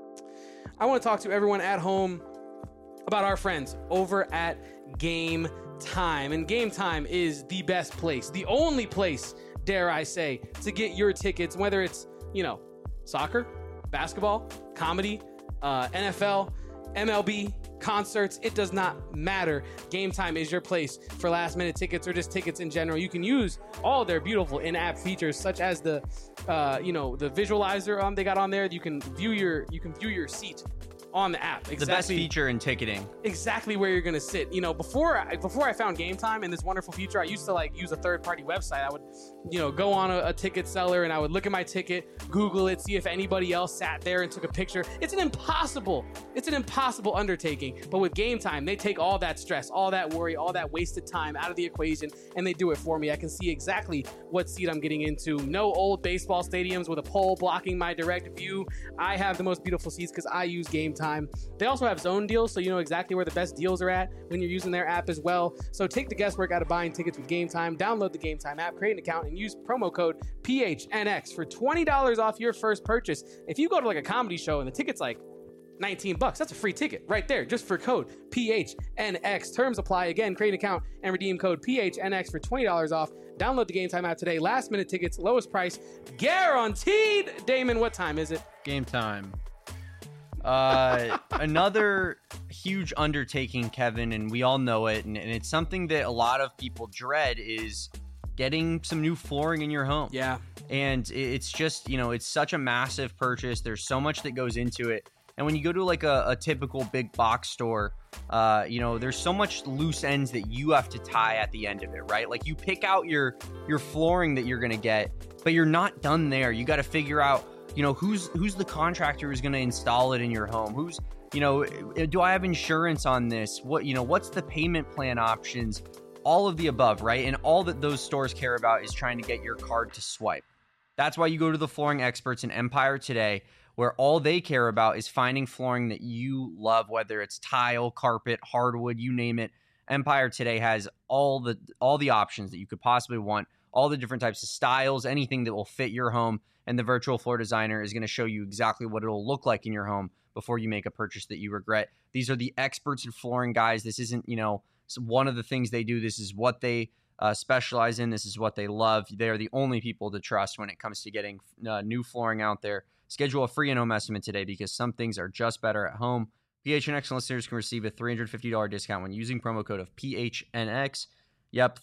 I want to talk to everyone at home about our friends over at Game Time. And Game Time is the best place, the only place, dare I say, to get your tickets, whether it's, soccer, basketball, comedy, NFL, MLB, concerts. It does not matter. Game Time is your place for last minute tickets or just tickets in general. You can use all their beautiful in-app features, such as the visualizer they got on there. You can view your seat on the app. Exactly. The best feature in ticketing. Exactly where you're going to sit. Before I found Game Time and this wonderful feature, I used to use a third-party website. I would, go on a ticket seller and I would look at my ticket, Google it, see if anybody else sat there and took a picture. It's an impossible undertaking. But with Game Time, they take all that stress, all that worry, all that wasted time out of the equation, and they do it for me. I can see exactly what seat I'm getting into. No old baseball stadiums with a pole blocking my direct view. I have the most beautiful seats because I use Game Time. They also have zone deals, so you know exactly where the best deals are at when you're using their app as well. So take the guesswork out of buying tickets with Game Time. Download the Game Time app, create an account, and use promo code PHNX for $20 off your first purchase. If you go to a comedy show and the ticket's $19, that's a free ticket right there just for code PHNX. Terms apply. Again, create an account and redeem code PHNX for $20 off. Download the Game Time app today. Last minute tickets, lowest price guaranteed. Damon, what time is it? Game Time. Another huge undertaking, Kevin, and we all know it, and it's something that a lot of people dread, is getting some new flooring in your home. Yeah. And it's just, it's such a massive purchase. There's so much that goes into it. And when you go to a typical big box store, there's so much loose ends that you have to tie at the end of it, right? Like you pick out your flooring that you're going to get, but you're not done there. You got to figure out, who's the contractor who's going to install it in your home? Who's, do I have insurance on this? What's the payment plan options? All of the above, right? And all that those stores care about is trying to get your card to swipe. That's why you go to the flooring experts in Empire Today, where all they care about is finding flooring that you love, whether it's tile, carpet, hardwood, you name it. Empire Today has all the options that you could possibly want, all the different types of styles, anything that will fit your home. And the virtual floor designer is going to show you exactly what it'll look like in your home before you make a purchase that you regret. These are the experts in flooring, guys. This isn't, one of the things they do. This is what they specialize in. This is what they love. They are the only people to trust when it comes to getting new flooring out there. Schedule a free in-home estimate today because some things are just better at home. PHNX listeners can receive a $350 discount when using promo code of PHNX. Yep,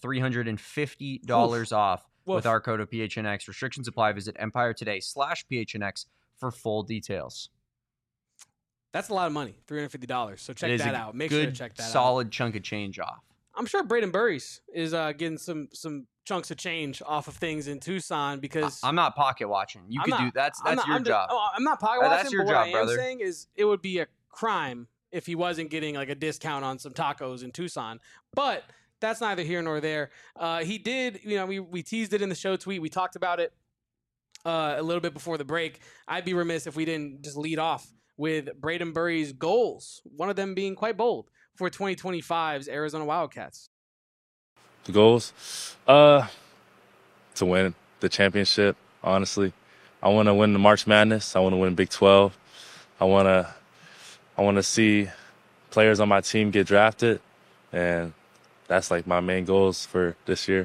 $350 off. With our code of PHNX. Restrictions apply. Visit EmpireToday/PHNX for full details. That's a lot of money, $350. So check that out. Make sure to check that out. Solid chunk of change off. I'm sure Braden Burries is getting some chunks of change off of things in Tucson because I'm not pocket watching. You could do that's your job. I'm not pocket watching. That's your but job, what I am brother. saying is it would be a crime if he wasn't getting a discount on some tacos in Tucson. But that's neither here nor there. He did, we teased it in the show tweet. We talked about it a little bit before the break. I'd be remiss if we didn't just lead off with Braden Burries' goals, one of them being quite bold for 2025's Arizona Wildcats. The goals? To win the championship, honestly. I want to win the March Madness. I want to win Big 12. I want to see players on my team get drafted, and that's my main goals for this year.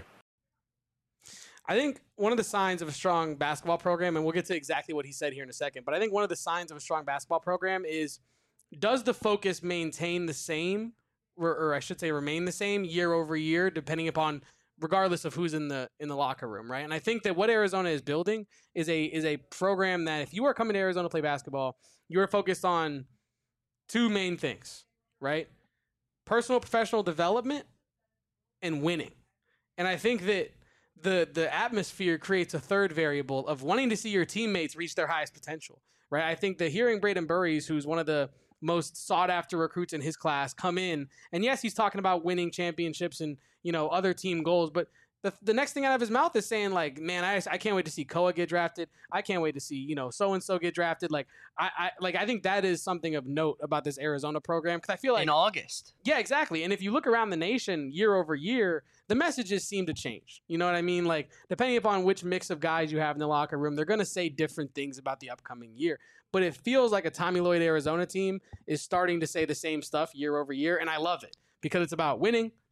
I think one of the signs of a strong basketball program, and we'll get to exactly what he said here in a second, but I think one of the signs of a strong basketball program is, does the focus maintain the same, or I should say remain the same year over year, depending upon, regardless of who's in the locker room, right? And I think that what Arizona is building is a program that if you are coming to Arizona to play basketball, you are focused on two main things, right? Personal professional development and winning. And I think that the atmosphere creates a third variable of wanting to see your teammates reach their highest potential, right? I think that hearing Braden Burries, who's one of the most sought after recruits in his class, come in, and yes, he's talking about winning championships and, other team goals, but the next thing out of his mouth is saying man, I can't wait to see Koa get drafted. I can't wait to see, so-and-so get drafted. I think that is something of note about this Arizona program. Cause I feel in August. Yeah, exactly. And if you look around the nation year over year, the messages seem to change. You know what I mean? Depending upon which mix of guys you have in the locker room, they're going to say different things about the upcoming year. But it feels like a Tommy Lloyd Arizona team is starting to say the same stuff year over year. And I love it because it's about winning,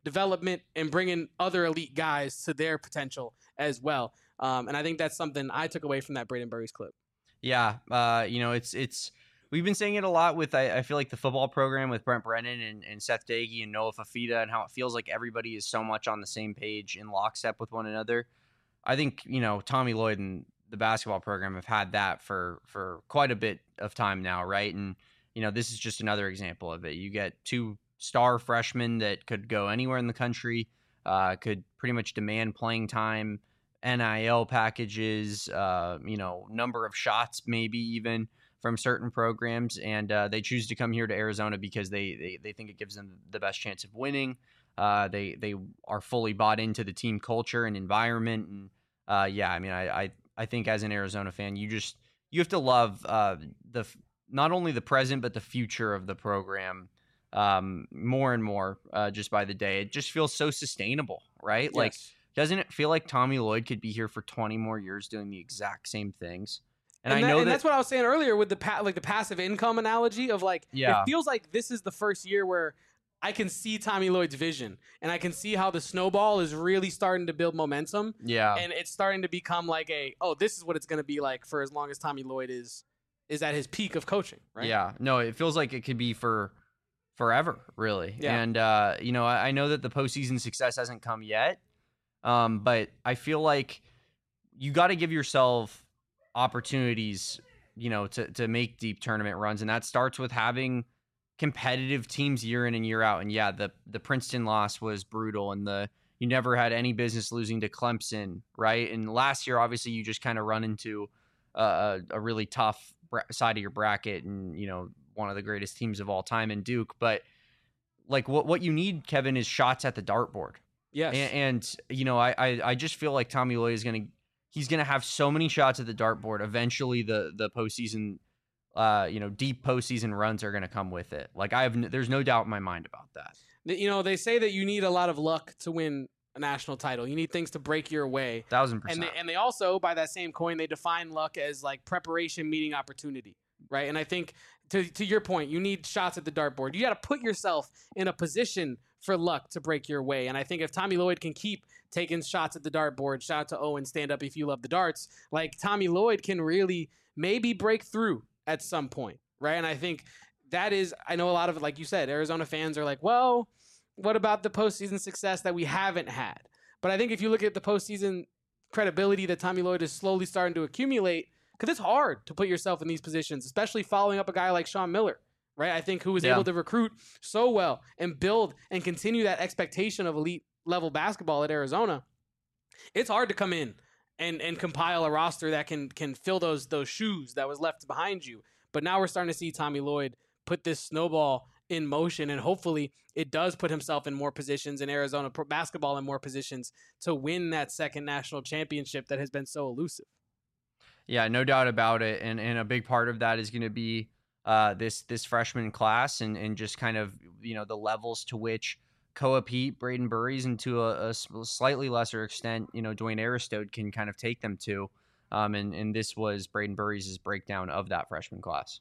development and bringing other elite guys to their potential as well. And I think that's something I took away from that Braden Burries clip. Yeah, it's we've been saying it a lot with I feel like the football program with Brent Brennan and Seth Dagey and Noah Fafita, and how it feels like everybody is so much on the same page in lockstep with one another. I think Tommy Lloyd and the basketball program have had that for quite a bit of time now, right? And this is just another example of it. You get 2 star freshmen that could go anywhere in the country, could pretty much demand playing time, NIL packages, number of shots, maybe even from certain programs. And they choose to come here to Arizona because they think it gives them the best chance of winning. They are fully bought into the team culture and environment. And I think as an Arizona fan, you have to love not only the present, but the future of the program more and more just by the day. It just feels so sustainable, right? Yes. Like, doesn't it feel like Tommy Lloyd could be here for 20 more years doing the exact same things? And I know that's what I was saying earlier with the passive income analogy of it feels like this is the first year where I can see Tommy Lloyd's vision, and I can see how the snowball is really starting to build momentum. Yeah. And it's starting to become like this is what it's going to be like for as long as Tommy Lloyd is at his peak of coaching, right? Yeah. No, it feels like it could be for forever, really. Yeah. And, I know that the postseason success hasn't come yet. But I feel like you got to give yourself opportunities, to make deep tournament runs. And that starts with having competitive teams year in and year out. And yeah, the Princeton loss was brutal, and you never had any business losing to Clemson, right? And last year, obviously, you just kind of run into a really tough side of your bracket, and one of the greatest teams of all time in Duke. But like what you need, Kevin, is shots at the dartboard. Yes. And I just feel like Tommy Lloyd he's gonna have so many shots at the dartboard. Eventually, the postseason, deep postseason runs are gonna come with it. Like there's no doubt in my mind about that. They say that you need a lot of luck to win a national title. You need things to break your way. 1,000%. And they also, by that same coin, they define luck as like preparation meeting opportunity, right? And I think to your point, you need shots at the dartboard. You got to put yourself in a position for luck to break your way. And I think if Tommy Lloyd can keep taking shots at the dartboard, shout out to Owen, stand up if you love the darts, like Tommy Lloyd can really maybe break through at some point, right? And I think I know a lot of, like you said, Arizona fans are like, well, what about the postseason success that we haven't had? But I think if you look at the postseason credibility that Tommy Lloyd is slowly starting to accumulate, because it's hard to put yourself in these positions, especially following up a guy like Sean Miller, right? I think who was able to recruit so well and build and continue that expectation of elite level basketball at Arizona. It's hard to come in and compile a roster that can fill those shoes that was left behind you. But now we're starting to see Tommy Lloyd put this snowball in motion, and hopefully it does put himself in more positions in Arizona basketball in more positions to win that second national championship that has been so elusive. Yeah, no doubt about it. And a big part of that is going to be this freshman class and just kind of, the levels to which Koa Pete, Braden Burries, and to a slightly lesser extent, Dwayne Aristode can kind of take them to. And this was Braden Burries' breakdown of that freshman class.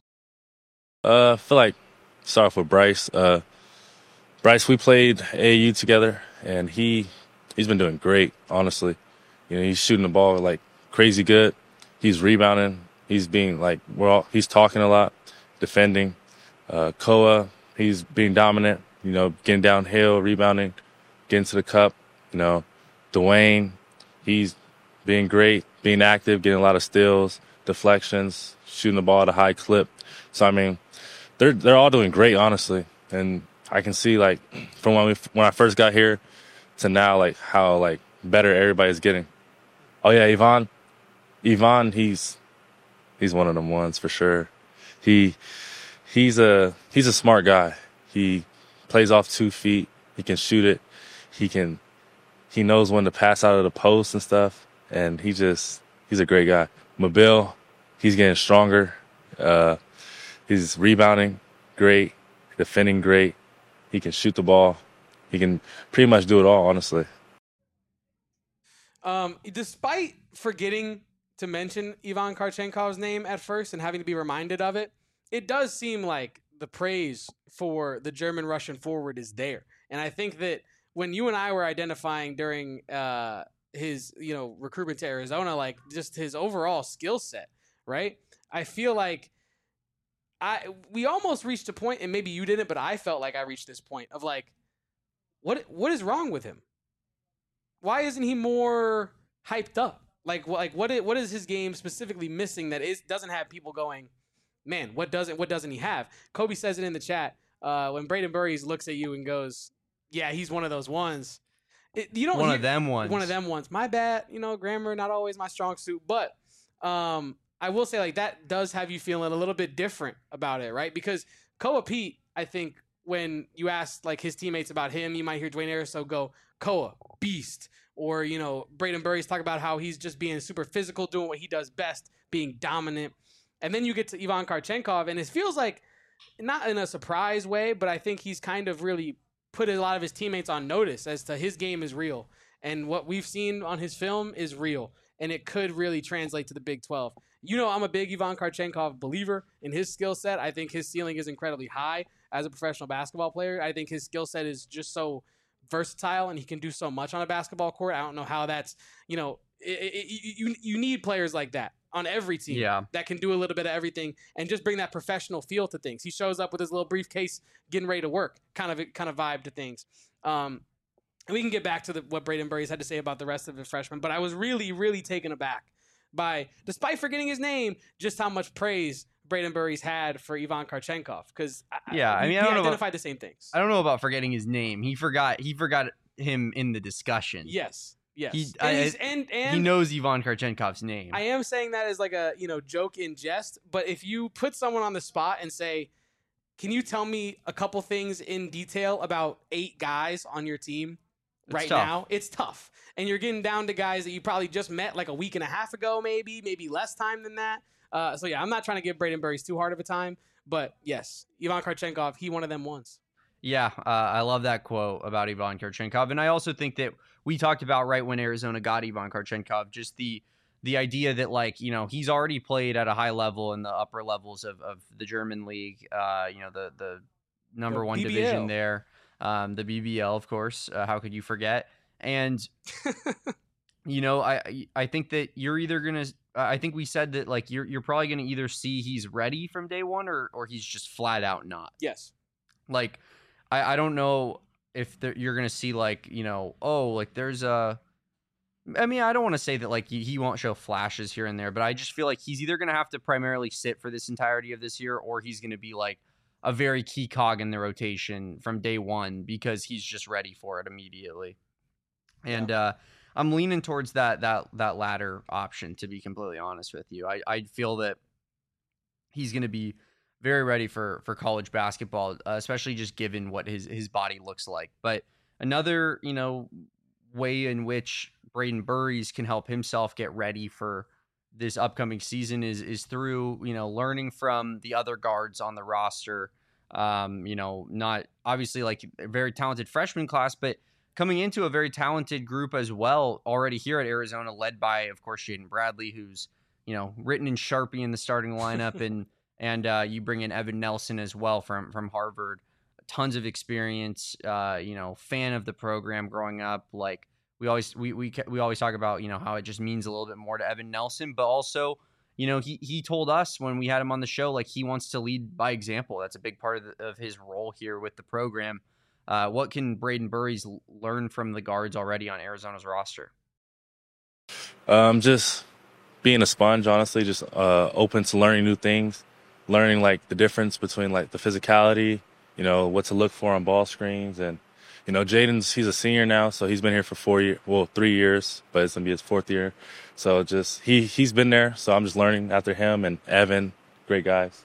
I feel like, start off with Bryce. Bryce, we played AAU together, and he's been doing great, honestly. He's shooting the ball like crazy good. He's rebounding. He's being he's talking a lot, defending. Koa, he's being dominant, getting downhill, rebounding, getting to the cup. Dwayne, he's being great, being active, getting a lot of steals, deflections, shooting the ball at a high clip. So, I mean, they're all doing great, honestly. And I can see, from when I first got here to now, how, better everybody's getting. Oh, yeah, Yvonne, he's one of them ones for sure. He's a smart guy. He plays off 2 feet. He can shoot it. He knows when to pass out of the post and stuff. And he's a great guy. Mobile, he's getting stronger. He's rebounding great, defending great. He can shoot the ball. He can pretty much do it all, honestly. Despite forgetting to mention Ivan Karchenkov's name at first and having to be reminded of it, it does seem like the praise for the German-Russian forward is there. And I think that when you and I were identifying during his, recruitment to Arizona, like just his overall skill set, right? I feel like we almost reached a point, and maybe you didn't, but I felt like I reached this point of like, what is wrong with him? Why isn't he more hyped up? What is his game specifically missing that doesn't have people going, man, what doesn't he have? Kobe says it in the chat when Braden Burries looks at you and goes, yeah, he's one of those ones. One of them ones. My bad. Grammar not always my strong suit, but I will say like that does have you feeling a little bit different about it, right? Because Koa Pete, I think when you ask like his teammates about him, you might hear Dwayne Ariso go, Koa, beast. Or, Braden Burries talk about how he's just being super physical, doing what he does best, being dominant. And then you get to Ivan Karchenkov, and it feels like, not in a surprise way, but I think he's kind of really put a lot of his teammates on notice as to his game is real. And what we've seen on his film is real. And it could really translate to the Big 12. I'm a big Ivan Karchenkov believer in his skill set. I think his ceiling is incredibly high as a professional basketball player. I think his skill set is just so versatile, and he can do so much on a basketball court. I don't know how that's, you need players like that on every team that can do a little bit of everything and just bring that professional feel to things. He shows up with his little briefcase getting ready to work kind of vibe to things. And we can get back to what Braden Burries had to say about the rest of the freshmen, but I was really, really taken aback by, despite forgetting his name, just how much praise Braden Burries had for Ivan Karchenkov, because we identified the same things. I don't know about forgetting his name. He forgot him in the discussion. Yes. He knows Ivan Karchenkov's name. I am saying that as like a joke in jest, but if you put someone on the spot and say, can you tell me a couple things in detail about 8 guys on your team now? It's tough. And you're getting down to guys that you probably just met like a week and a half ago, maybe less time than that. I'm not trying to give Braden Burries too hard of a time, but yes, Ivan Karchenkov, he one of them ones. Yeah, I love that quote about Ivan Karchenkov, and I also think that we talked about right when Arizona got Ivan Karchenkov, just the idea that like he's already played at a high level in the upper levels of the German league, the number one division there, the BBL, of course. How could you forget? And I think that you're either gonna. I think we said that like you're probably gonna either see he's ready from day one or he's just flat out not. Yes. Like I don't know if you're gonna see like there's a. I mean, I don't want to say that like he won't show flashes here and there, but I just feel like he's either gonna have to primarily sit for this entirety of this year, or he's gonna be like a very key cog in the rotation from day one because he's just ready for it immediately. And I'm leaning towards that latter option, to be completely honest with you. I feel that he's going to be very ready for college basketball, especially just given what his body looks like. But another, way in which Braden Burries can help himself get ready for this upcoming season is through, learning from the other guards on the roster. Not obviously like a very talented freshman class, but coming into a very talented group as well already here at Arizona, led by, of course, Jaden Bradley, who's, written in Sharpie in the starting lineup. and you bring in Evan Nelson as well from Harvard. Tons of experience, fan of the program growing up. Like we always talk about, how it just means a little bit more to Evan Nelson, but also, he told us when we had him on the show, like he wants to lead by example. That's a big part of his role here with the program. What can Braden Burries learn from the guards already on Arizona's roster? Just being a sponge, honestly, just open to learning new things, learning like the difference between like the physicality, what to look for on ball screens. And, he's a senior now, so he's been here for 3 years, but it's going to be his 4th year. So just he's been there, so I'm just learning after him and Evan, great guys.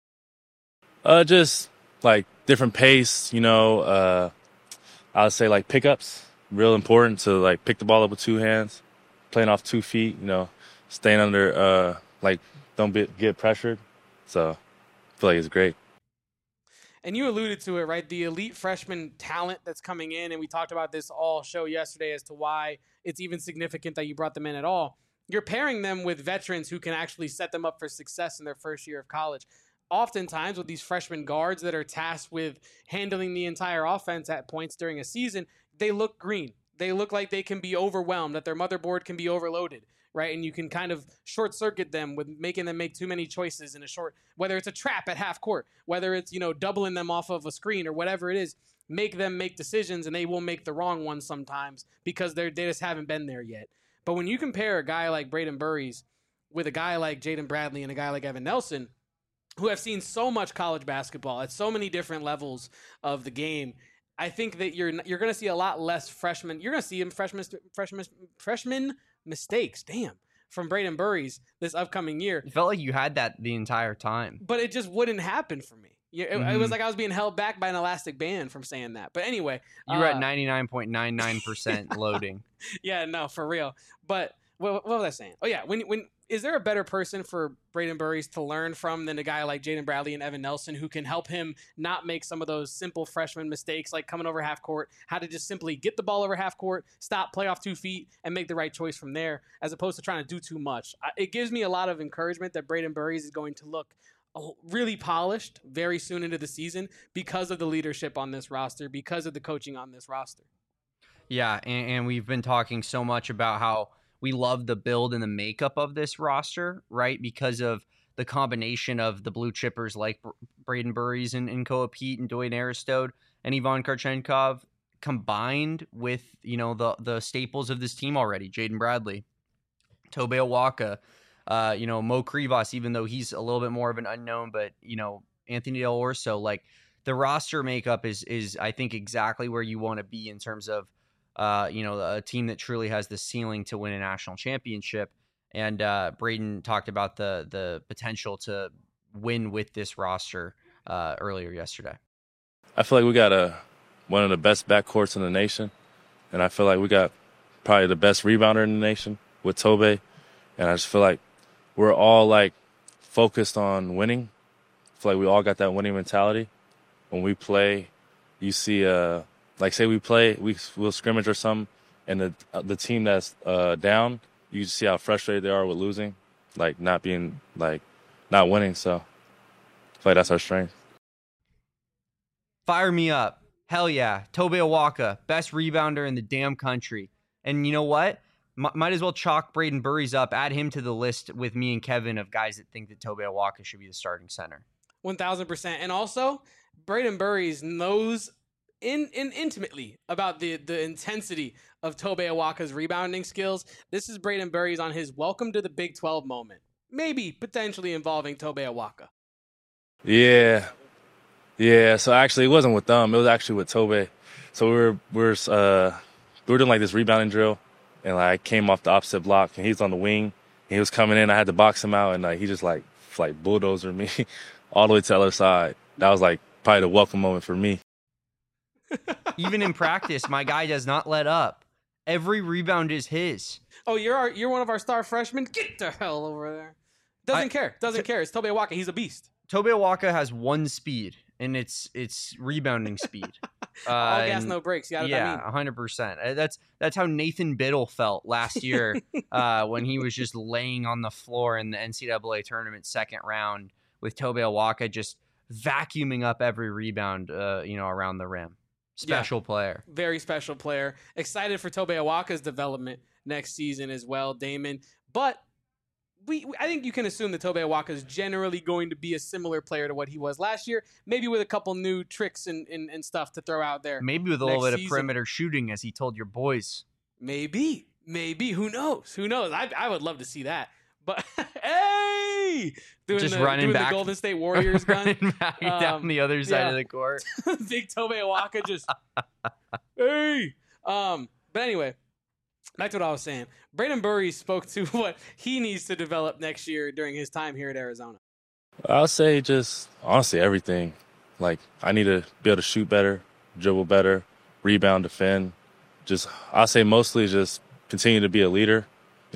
Just like different pace, I would say like pickups, real important to like pick the ball up with 2 hands, playing off 2 feet, staying under, don't get pressured. So I feel like it's great. And you alluded to it, right? The elite freshman talent that's coming in, and we talked about this all show yesterday as to why it's even significant that you brought them in at all. You're pairing them with veterans who can actually set them up for success in their first year of college. oftentimes with these freshman guards that are tasked with handling the entire offense at points during a season, they look green. They look like they can be overwhelmed, that their motherboard can be overloaded, right? And you can kind of short circuit them with making them make too many choices in a short, whether it's a trap at half court, whether it's, doubling them off of a screen or whatever it is, make them make decisions and they will make the wrong ones sometimes because they just haven't been there yet. But when you compare a guy like Braden Burries with a guy like Jaden Bradley and a guy like Evan Nelson, who have seen so much college basketball at so many different levels of the game, I think that you're going to see a lot less freshmen. You're going to see him freshman mistakes. Damn. From Braden Burries this upcoming year. It felt like you had that the entire time. But it just wouldn't happen for me. It was like I was being held back by an elastic band from saying that. But anyway. You were at 99.99% loading. Yeah, no, for real. But what was I saying? Oh, yeah. When is there a better person for Braden Burries to learn from than a guy like Jaden Bradley and Evan Nelson who can help him not make some of those simple freshman mistakes like coming over half court, how to just simply get the ball over half court, stop, play off 2 feet, and make the right choice from there as opposed to trying to do too much. It gives me a lot of encouragement that Braden Burries is going to look really polished very soon into the season because of the leadership on this roster, because of the coaching on this roster. Yeah, and we've been talking so much about how we love the build and the makeup of this roster, right? Because of the combination of the blue chippers like Braden Burries and Koa Pete and Dwayne Aristode and Ivan Karchenkov combined with, the staples of this team already. Jaden Bradley, Tobe Awaka, Mo Krivas, even though he's a little bit more of an unknown, but, Anthony Del Orso, like the roster makeup is I think exactly where you want to be in terms of, a team that truly has the ceiling to win a national championship. And Braden talked about the potential to win with this roster earlier yesterday. I feel like we got one of the best backcourts in the nation, and I feel like we got probably the best rebounder in the nation with Tobe. And I just feel like we're all like focused on winning. I feel like we all got that winning mentality. When we play, you see say we'll scrimmage or something, and the team that's down, you see how frustrated they are with losing, like not winning. So I feel like that's our strength. Fire me up. Hell yeah. Tobe Awaka, best rebounder in the damn country. And you know what? Might as well chalk Braden Burries up, add him to the list with me and Kevin of guys that think that Tobe Awaka should be the starting center. 1,000%. And also, Braden Burries knows intimately about the intensity of Tobe Awaka's rebounding skills. This is Braden Burries on his welcome to the Big 12 moment, maybe potentially involving Tobe Awaka. Yeah. So actually, it wasn't with them. It was actually with Tobe. So we were doing like this rebounding drill, and like I came off the opposite block, and he's on the wing. And he was coming in. I had to box him out, and like he just like bulldozer me all the way to the other side. That was like probably the welcome moment for me. Even in practice, my guy does not let up. Every rebound is his. Oh, you're one of our star freshmen? Get the hell over there. Doesn't care. It's Tobe Awaka. He's a beast. Tobe Awaka has one speed, and it's rebounding speed. All gas, no brakes. Yeah, 100%. That's how Nathan Biddle felt last year when he was just laying on the floor in the NCAA tournament second round with Tobe Awaka just vacuuming up every rebound, around the rim. Special player. Very special player. Excited for Tobe Awaka's development next season as well, Damon. But I think you can assume that Tobe Awaka is generally going to be a similar player to what he was last year, maybe with a couple new tricks and stuff to throw out there. Maybe with a little bit of perimeter shooting, as he told your boys. Maybe. Who knows? I would love to see that. But hey, running back, the Golden State Warriors gun back down the other side of the court. Big Tobe Awaka just hey. But anyway, back to what I was saying. Braden Burries spoke to what he needs to develop next year during his time here at Arizona. I'll say just honestly everything. Like I need to be able to shoot better, dribble better, rebound, defend. I'll say mostly just continue to be a leader.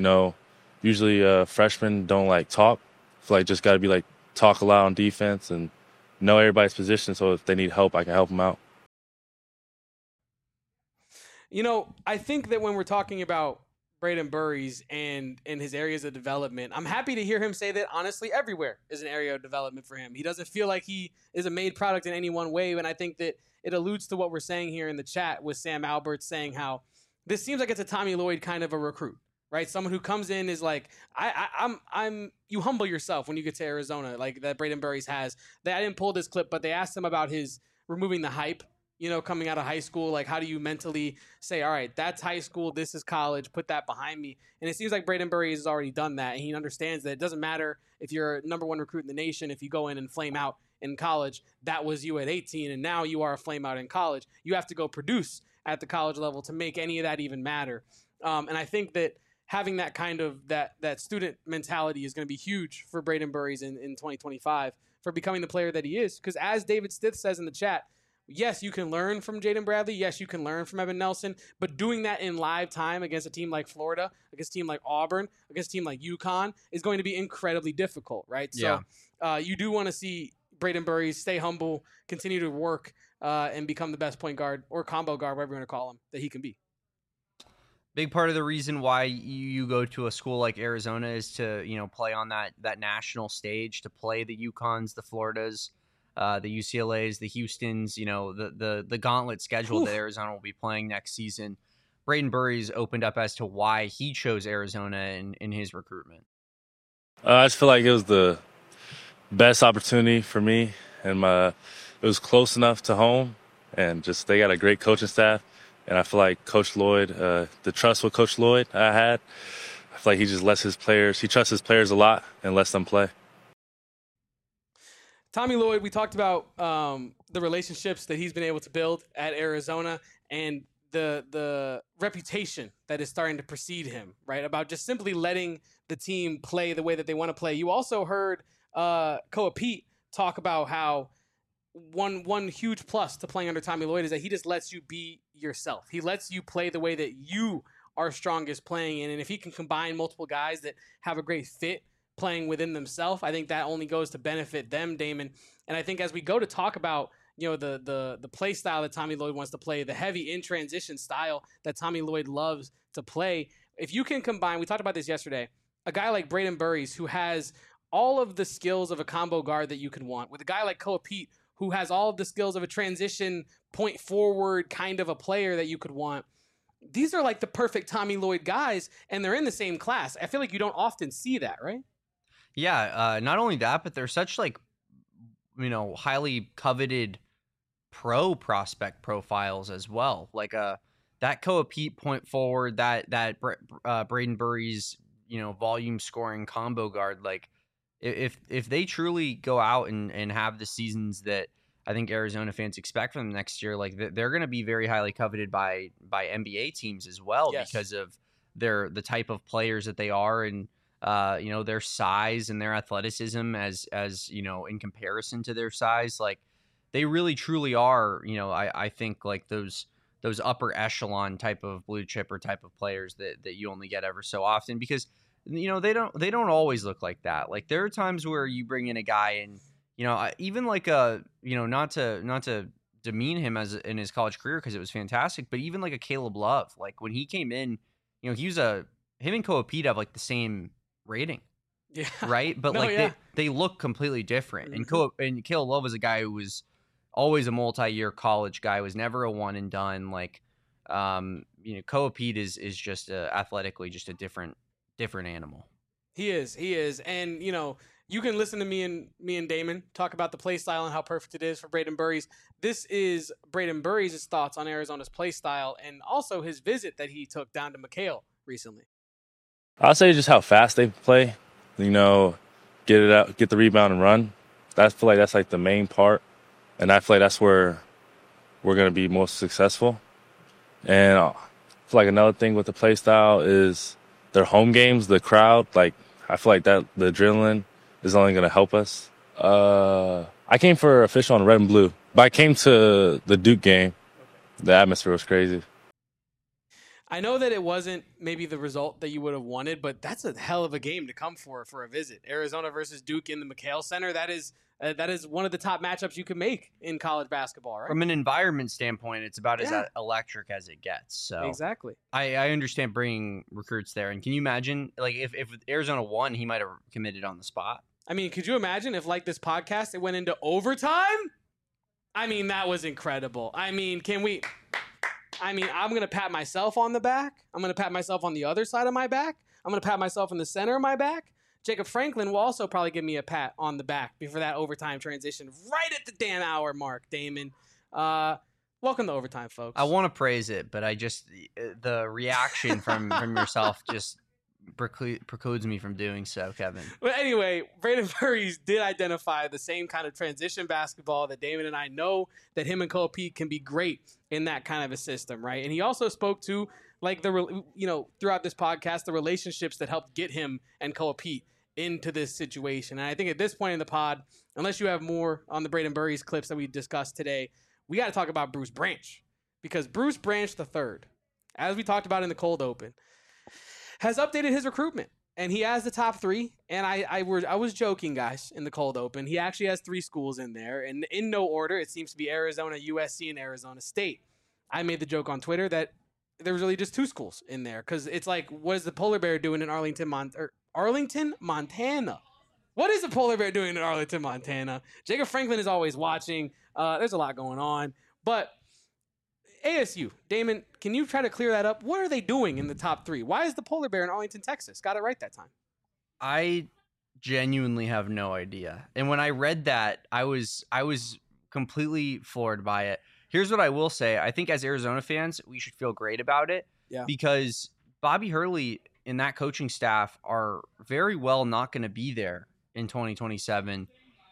Usually freshmen don't like talk. I feel like just got to be like talk a lot on defense and know everybody's position. So if they need help, I can help them out. I think that when we're talking about Braden Burries and his areas of development, I'm happy to hear him say that, honestly, everywhere is an area of development for him. He doesn't feel like he is a made product in any one way, and I think that it alludes to what we're saying here in the chat with Sam Albert saying how this seems like it's a Tommy Lloyd kind of a recruit, right? Someone who comes in is like, I'm you humble yourself when you get to Arizona, like that Braden Burries has. I didn't pull this clip, but they asked him about his removing the hype, coming out of high school. Like, how do you mentally say, all right, that's high school, this is college, put that behind me? And it seems like Braden Burries has already done that, and he understands that it doesn't matter if you're number one recruit in the nation, if you go in and flame out in college. That was you at 18, and now you are a flame out in college. You have to go produce at the college level to make any of that even matter. And I think that having that kind of that student mentality is going to be huge for Braden Burries in 2025 for becoming the player that he is. Because as David Stith says in the chat, yes, you can learn from Jaden Bradley. Yes, you can learn from Evan Nelson. But doing that in live time against a team like Florida, against a team like Auburn, against a team like UConn is going to be incredibly difficult, right? Yeah. So you do want to see Braden Burries stay humble, continue to work, and become the best point guard or combo guard, whatever you want to call him, that he can be. Big part of the reason why you go to a school like Arizona is to, play on that national stage, to play the UConns, the Floridas, the UCLAs, the Houstons, the gauntlet schedule that Arizona will be playing next season. Braden Burries opened up as to why he chose Arizona in his recruitment. I just feel like it was the best opportunity for me, and it was close enough to home, and just they got a great coaching staff. And I feel like Coach Lloyd, the trust with Coach Lloyd I had, I feel like he just he trusts his players a lot and lets them play. Tommy Lloyd, we talked about the relationships that he's been able to build at Arizona and the reputation that is starting to precede him, right? About just simply letting the team play the way that they want to play. You also heard Koa Pete talk about how one huge plus to playing under Tommy Lloyd is that he just lets you be yourself. He lets you play the way that you are strongest playing in. And if he can combine multiple guys that have a great fit playing within themselves, I think that only goes to benefit them, Damon. And I think as we go to talk about, the play style that Tommy Lloyd wants to play, the heavy in transition style that Tommy Lloyd loves to play, if you can combine, we talked about this yesterday, a guy like Braden Burries who has all of the skills of a combo guard that you could want, with a guy like Koa Pete who has all of the skills of a transition point forward kind of a player that you could want. These are like the perfect Tommy Lloyd guys, and they're in the same class. I feel like you don't often see that, right? Yeah, not only that, but they're such highly coveted pro prospect profiles as well. Like that Koa Pete point forward, that Braden Burries, volume scoring combo guard, like if they truly go out and have the seasons that I think Arizona fans expect from them next year, like they're going to be very highly coveted by NBA teams as well, yes, because of the type of players that they are, and their size and their athleticism as in comparison to their size. Like they really truly are, I think like those upper echelon type of blue chipper type of players that you only get ever so often, because they don't always look like that. Like there are times where you bring in a guy and even like not to demean him as in his college career, because it was fantastic, but even like a Caleb Love, like when he came in, him and Koa Pete have like the same rating, yeah, right? But they look completely different. Mm-hmm. And Caleb Love was a guy who was always a multi-year college guy, was never a one and done. Like Koa Pete is just athletically just a different animal. He is. And, you can listen to me and Damon talk about the play style and how perfect it is for Braden Burries. This is Braden Burries' thoughts on Arizona's play style and also his visit that he took down to McHale recently. I'll say just how fast they play, get it out, get the rebound and run. I feel like that's like the main part. And I feel like that's where we're going to be most successful. And I feel like another thing with the play style is their home games, the crowd. Like I feel like that the adrenaline is only going to help us. I came for official on red and blue, but I came to the Duke game. The atmosphere was crazy. I know that it wasn't maybe the result that you would have wanted, but that's a hell of a game to come for a visit. Arizona versus Duke in the McHale Center. That is one of the top matchups you can make in college basketball, right? From an environment standpoint, it's about as electric as it gets. So exactly. I understand bringing recruits there. And can you imagine, like, if Arizona won, he might have committed on the spot? I mean, could you imagine if, like this podcast, it went into overtime? I mean, that was incredible. I mean, I'm going to pat myself on the back. I'm going to pat myself on the other side of my back. I'm going to pat myself in the center of my back. Jacob Franklin will also probably give me a pat on the back before that overtime transition right at the damn hour mark, Damon. Welcome to overtime, folks. I want to praise it, but the reaction from yourself just precludes me from doing so, Kevin. But anyway, Braden Burries did identify the same kind of transition basketball that Damon and I know that him and Cole Pete can be great in that kind of a system, right? And he also spoke to, like, throughout this podcast, the relationships that helped get him and Cole Pete into this situation. And I think at this point in the pod, unless you have more on the Braden Burries clips that we discussed today, we got to talk about Bruce Branch, because Bruce Branch III, as we talked about in the cold open, has updated his recruitment, and he has the top 3. And I was joking, guys, in the cold open. He actually has 3 schools in there, and in no order. It seems to be Arizona, USC, and Arizona State. I made the joke on Twitter that there was really just 2 schools in there, because it's like, what is the Polar Bear doing in Arlington, Montana? What is the Polar Bear doing in Arlington, Montana? Jacob Franklin is always watching. There's a lot going on, but ASU, Damon, can you try to clear that up? What are they doing in the top 3? Why is the Polar Bear in Arlington, Texas? Got it right that time. I genuinely have no idea. And when I read that, I was completely floored by it. Here's what I will say. I think as Arizona fans, we should feel great about it. Yeah. Because Bobby Hurley and that coaching staff are very well not going to be there in 2027.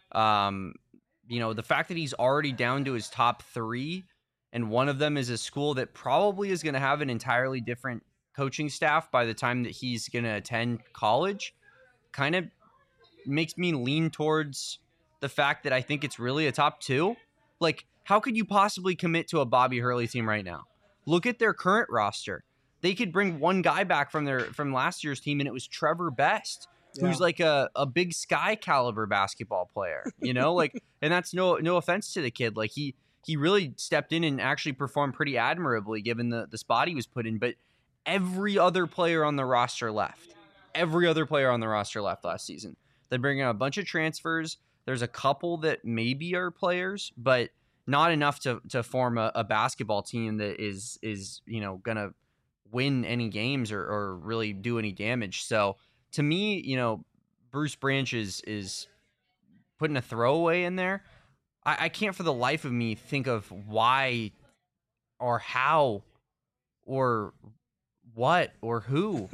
The fact that he's already down to his top 3, and one of them is a school that probably is going to have an entirely different coaching staff by the time that he's going to attend college, kind of makes me lean towards the fact that I think it's really a top 2. Like, how could you possibly commit to a Bobby Hurley team right now? Look at their current roster. They could bring one guy back from last year's team, and it was Trevor Best, who's like a Big Sky caliber basketball player, like, and that's no offense to the kid. Like, he really stepped in and actually performed pretty admirably given the spot he was put in. But every other player on the roster left. Every other player on the roster left last season. They bring in a bunch of transfers. There's a couple that maybe are players, but not enough to form a basketball team that is going to win any games or really do any damage. So to me, Bruce Branch is putting a throwaway in there. I can't for the life of me think of why or how or what or who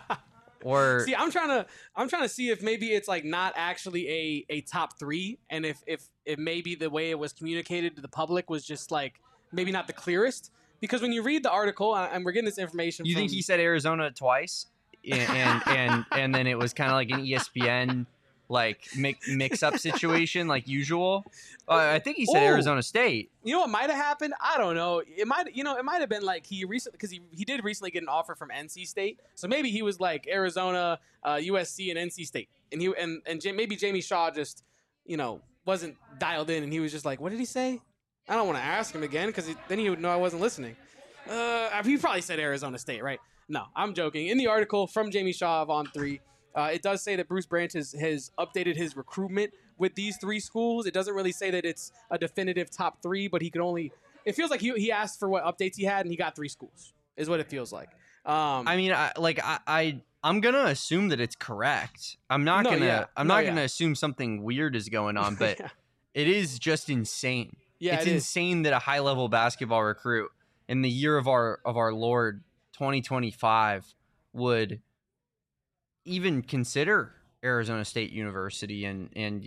or see, I'm trying to see if maybe it's like not actually a top 3, and if maybe the way it was communicated to the public was just like maybe not the clearest, because when you read the article, and we're getting this information, you think he said Arizona twice, and then it was kind of like an ESPN like mix up situation like usual. I think he said Arizona State. You know what might have happened? I don't know. It might have been like he recently, because he did recently get an offer from NC State, so maybe he was like Arizona, USC, and NC State, and maybe Jamie Shaw just wasn't dialed in, and he was just like, what did he say? I don't want to ask him again, because then he would know I wasn't listening. He probably said Arizona State, right? No, I'm joking. In the article from Jamie Shaw of On3, it does say that Bruce Branch has updated his recruitment with these 3 schools. It doesn't really say that it's a definitive top 3, but it feels like he asked for what updates he had, and he got 3 schools, is what it feels like. I'm gonna assume that it's correct. I'm not gonna assume something weird is going on, but it is just insane. Yeah, it's insane that a high level basketball recruit in the year of our Lord 2025 would even consider Arizona State University, and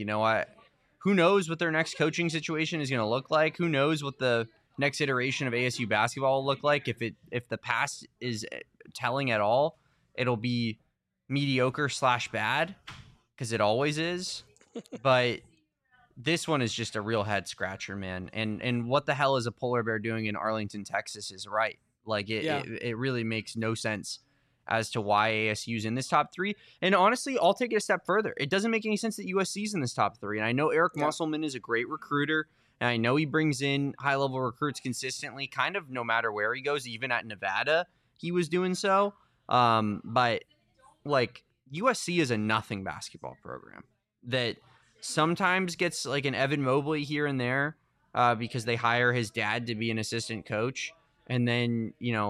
who knows what their next coaching situation is going to look like? Who knows what the next iteration of ASU basketball will look like? If the past is telling at all, it'll be mediocre / bad, because it always is. But this one is just a real head scratcher, man. And what the hell is a Polar Bear doing in Arlington, Texas is right. Like Yeah. it really makes no sense as to why ASU's in this top 3. And honestly, I'll take it a step further. It doesn't make any sense that USC's in this top 3. And I know Eric Musselman is a great recruiter, and I know he brings in high-level recruits consistently, kind of no matter where he goes. Even at Nevada, he was doing so. But like USC is a nothing basketball program that sometimes gets like an Evan Mobley here and there because they hire his dad to be an assistant coach, and then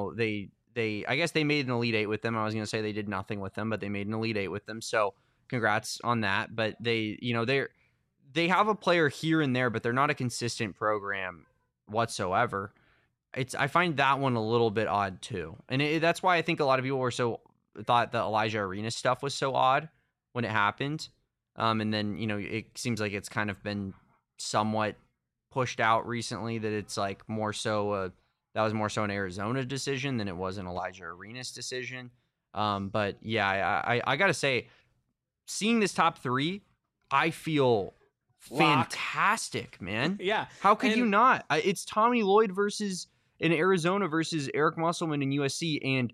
I guess they made an Elite Eight with them. I was going to say they did nothing with them, but they made an Elite Eight with them. So congrats on that. But they have a player here and there, but they're not a consistent program whatsoever. I find that one a little bit odd too. And that's why I think a lot of people thought the Elijah Arenas stuff was so odd when it happened. And then, it seems like it's kind of been somewhat pushed out recently that it's like more so that was more so an Arizona decision than it was an Elijah Arenas decision. But yeah, I got to say, seeing this top 3, I feel fantastic, man. Yeah. How could you not? It's Tommy Lloyd in Arizona versus Eric Musselman in USC and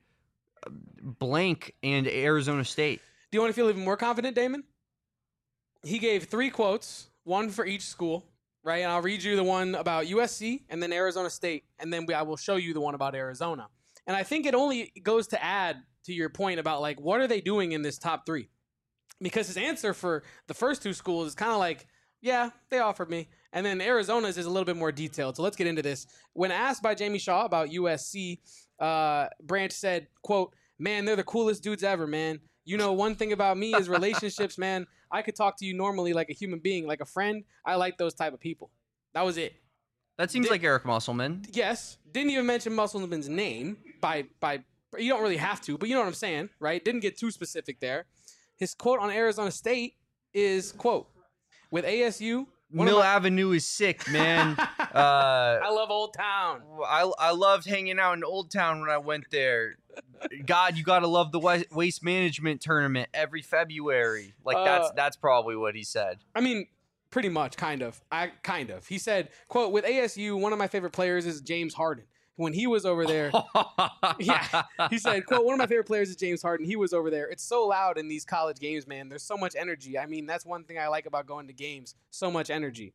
blank and Arizona State. Do you want to feel even more confident, Damon? He gave 3 quotes, one for each school. Right, and I'll read you the one about USC and then Arizona State, and then I will show you the one about Arizona. And I think it only goes to add to your point about, like, what are they doing in this top 3? Because his answer for the first 2 schools is kind of like, yeah, they offered me. And then Arizona's is a little bit more detailed. So let's get into this. When asked by Jamie Shaw about USC, Branch said, quote, "Man, they're the coolest dudes ever, man. One thing about me is relationships, man. I could talk to you normally like a human being, like a friend. I like those type of people." That was it. That seems like Eric Musselman. Yes. Didn't even mention Musselman's name by you don't really have to, but you know what I'm saying, right? Didn't get too specific there. His quote on Arizona State is, quote, "With ASU, Mill Avenue is sick, man." I love Old Town. I loved hanging out in Old Town when I went there. God, you gotta love the waste management tournament every February. Like that's probably what he said. I mean, pretty much, kind of. He said, quote, "With ASU, one of my favorite players is James Harden. When he was over there," yeah, he said, quote, "One of my favorite players is James Harden. He was over there. It's so loud in these college games, man. There's so much energy. I mean, that's one thing I like about going to games. So much energy."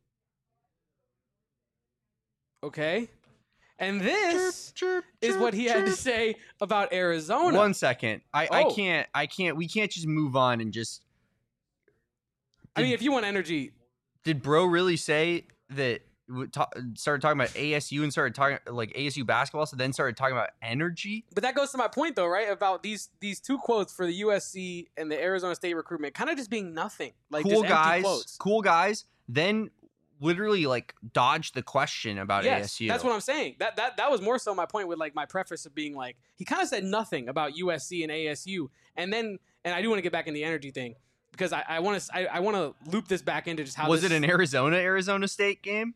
Okay. And this is what he had to say about Arizona. 1 second. I can't. We can't just move on and just. I mean, if you want energy. Did bro really say that? Started talking about ASU and started talking like ASU basketball, so then started talking about energy. But that goes to my point, though, right? About these 2 quotes for the USC and the Arizona State recruitment, kind of just being nothing. Like cool just guys, empty quotes. Cool guys. Then literally like dodged the question about ASU. That's what I'm saying. That was more so my point with like my preface of being like he kind of said nothing about USC and ASU, and I do want to get back in the energy thing because I want to loop this back into just how was it an Arizona State game?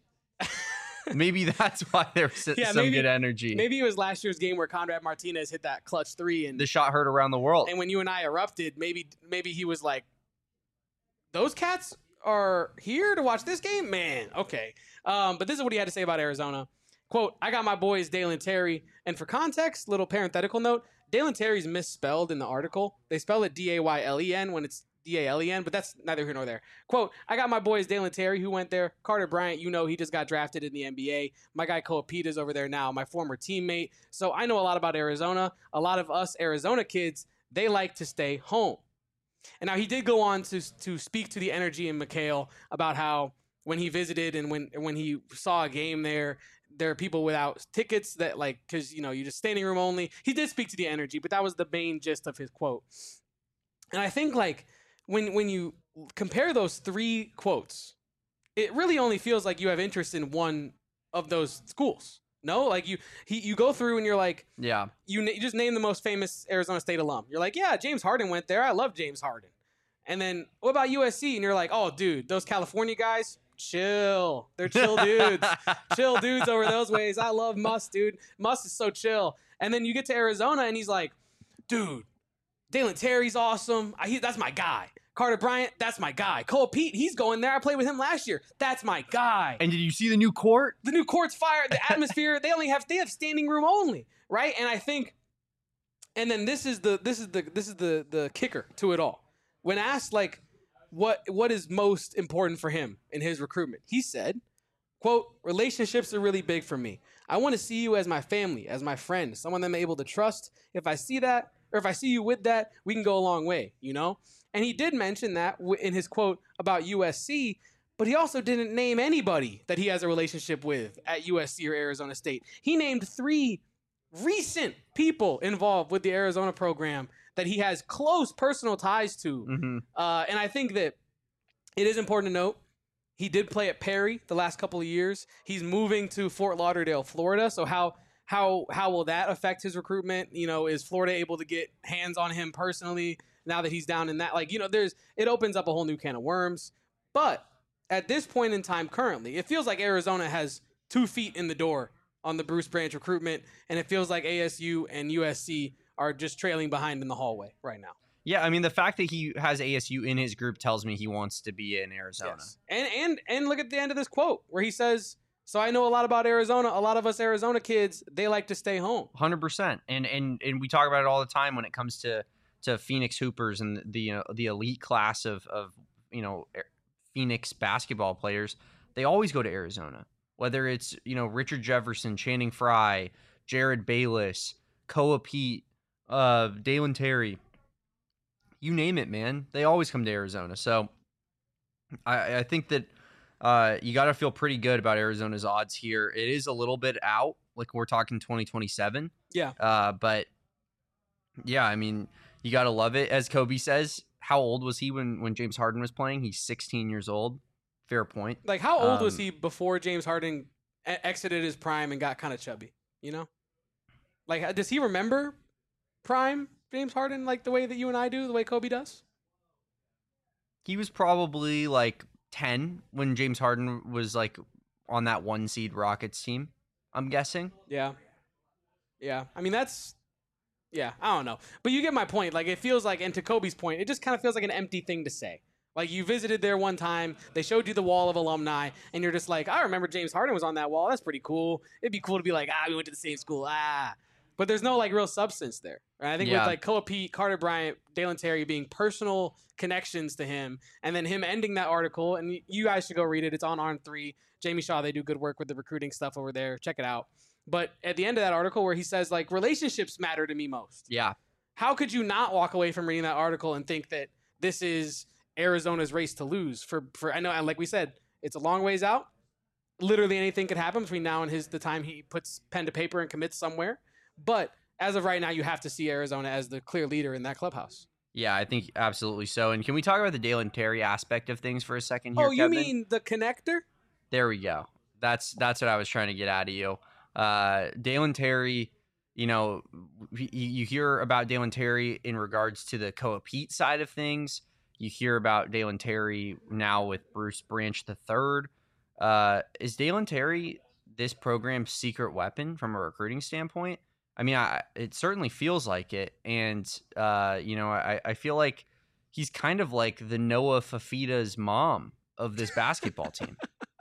Maybe that's why there was some good energy. Maybe it was last year's game where Conrad Martinez hit that clutch 3 and the shot heard around the world. And when you and I erupted, maybe he was like, "Those cats are here to watch this game, man." Okay, but this is what he had to say about Arizona. Quote, "I got my boys Dalen Terry, and for context, little parenthetical note: Dalen Terry's misspelled in the article. They spell it Daylen when it's Dalen, but that's neither here nor there. Quote, "I got my boys Dalen Terry who went there. Carter Bryant, he just got drafted in the NBA. My guy Koa Pita's over there now, my former teammate. So I know a lot about Arizona. A lot of us Arizona kids, they like to stay home." And now he did go on to speak to the energy in McHale about how when he visited and when he saw a game there are people without tickets that like, because, you just standing room only. He did speak to the energy, but that was the main gist of his quote. And I think like, when you compare those 3 quotes, it really only feels like you have interest in one of those schools. No, like you go through and you're like, yeah, you just name the most famous Arizona State alum. You're like, yeah, James Harden went there. I love James Harden. And then what about USC? And you're like, oh, dude, those California guys, chill. They're chill dudes. Chill dudes over those ways. I love Muss, dude. Muss is so chill. And then you get to Arizona and he's like, dude, Dalen Terry's awesome. That's my guy. Carter Bryant, that's my guy. Cole Pete, he's going there. I played with him last year. That's my guy. And did you see the new court? The new court's fire. The atmosphere, they have standing room only. right? And I think, and then this is the kicker to it all. When asked like what is most important for him in his recruitment, he said, quote, relationships are really big for me. I want to see you as my family, as my friend, someone that I'm able to trust. If I see that, or if I see you with that, we can go a long way, you know? And he did mention that in his quote about USC, but he also didn't name anybody that he has a relationship with at USC or Arizona State. He named 3 recent people involved with the Arizona program that he has close personal ties to. Mm-hmm. And I think that it is important to note, he did play at Perry the last couple of years. He's moving to Fort Lauderdale, Florida. So how will that affect his recruitment? You know, is Florida able to get hands on him personally now that he's down in that? Like, you know, it opens up a whole new can of worms. But at this point in time currently, it feels like Arizona has 2 feet in the door on the Bruce Branch recruitment, and it feels like ASU and USC are just trailing behind in the hallway right now. Yeah, I mean, the fact that he has ASU in his group tells me he wants to be in Arizona. Yes. And look at the end of this quote where he says, so I know a lot about Arizona. A lot of us Arizona kids, they like to stay home. 100%. And we talk about it all the time when it comes to Phoenix Hoopers and the elite class of Phoenix basketball players. They always go to Arizona. Whether it's, Richard Jefferson, Channing Frye, Jared Bayless, Koa Pete, Dalen Terry, you name it, man. They always come to Arizona. So I think that you got to feel pretty good about Arizona's odds here. It is a little bit out, like we're talking 2027. Yeah. But yeah, I mean, you got to love it. As Kobe says, how old was he when James Harden was playing? He's 16 years old. Fair point. Like, how old was he before James Harden exited his prime and got kind of chubby? You know, like, does he remember prime James Harden like the way that you and I do, the way Kobe does? He was probably like 10 when James Harden was like on that 1 seed Rockets team, I'm guessing. Yeah. I mean, I don't know. But you get my point. Like, it feels like, and to Kobe's point, it just kind of feels like an empty thing to say. Like, you visited there one time, they showed you the wall of alumni, and you're just like, I remember James Harden was on that wall. That's pretty cool. It'd be cool to be like, we went to the same school. But there's no, like, real substance there. Right? I think with, like, Koa Pete, Carter Bryant, Dalen Terry being personal connections to him, and then him ending that article, and you guys should go read it. It's on On3. Jamie Shaw, they do good work with the recruiting stuff over there. Check it out. But at the end of that article where he says, like, relationships matter to me most. Yeah. How could you not walk away from reading that article and think that this is Arizona's race to lose? For I know, and like we said, it's a long ways out. Literally anything could happen between now and the time he puts pen to paper and commits somewhere. But as of right now, you have to see Arizona as the clear leader in that clubhouse. Yeah, I think absolutely so. And can we talk about the Dalen Terry aspect of things for a second here, Oh, you Kevin? mean the connector? There we go. That's what I was trying to get out of you. Dalen Terry, you hear about Dalen Terry in regards to the Koa Pete side of things. You hear about Dalen Terry now with Bruce Branch III. Is Dalen Terry this program's secret weapon from a recruiting standpoint? I mean, it certainly feels like it. And, I feel like he's kind of like the Noah Fafita's mom of this basketball team.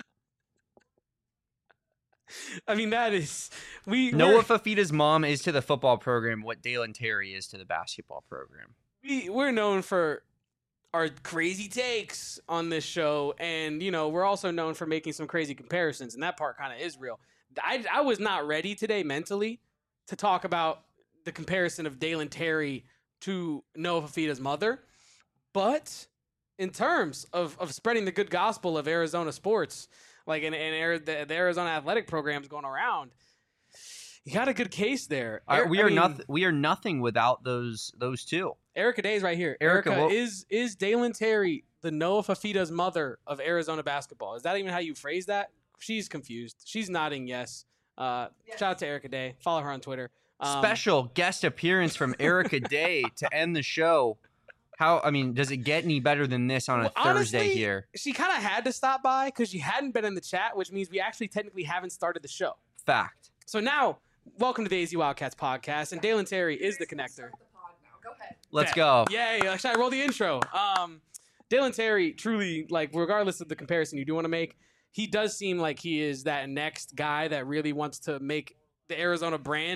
I mean, that is... Noah Fafita's mom is to the football program what Dalen Terry is to the basketball program. We're known for our crazy takes on this show, and, we're also known for making some crazy comparisons, and that part kind of is real. I was not ready today mentally to talk about the comparison of Dalen Terry to Noah Fafita's mother, but in terms of spreading the good gospel of Arizona sports, like in the Arizona athletic programs going around, you got a good case there. We are nothing without those two. Erica Day's right here. Erica, is Dalen Terry the Noah Fafita's mother of Arizona basketball? Is that even how you phrase that? She's confused. She's nodding yes. Yes. Shout out to Erica Day. Follow her on Twitter. Special guest appearance from Erica Day to end the show. Does it get any better than this on a Thursday honestly, here? She kind of had to stop by because she hadn't been in the chat, which means we actually technically haven't started the show. Fact. So now, welcome to the AZ Wildcats podcast, and Dalen Terry is the connector. Go ahead. Let's go. Yay! Should I roll the intro? Dalen Terry, truly, like, regardless of the comparison you do want to make, he does seem like he is that next guy that really wants to make the Arizona brand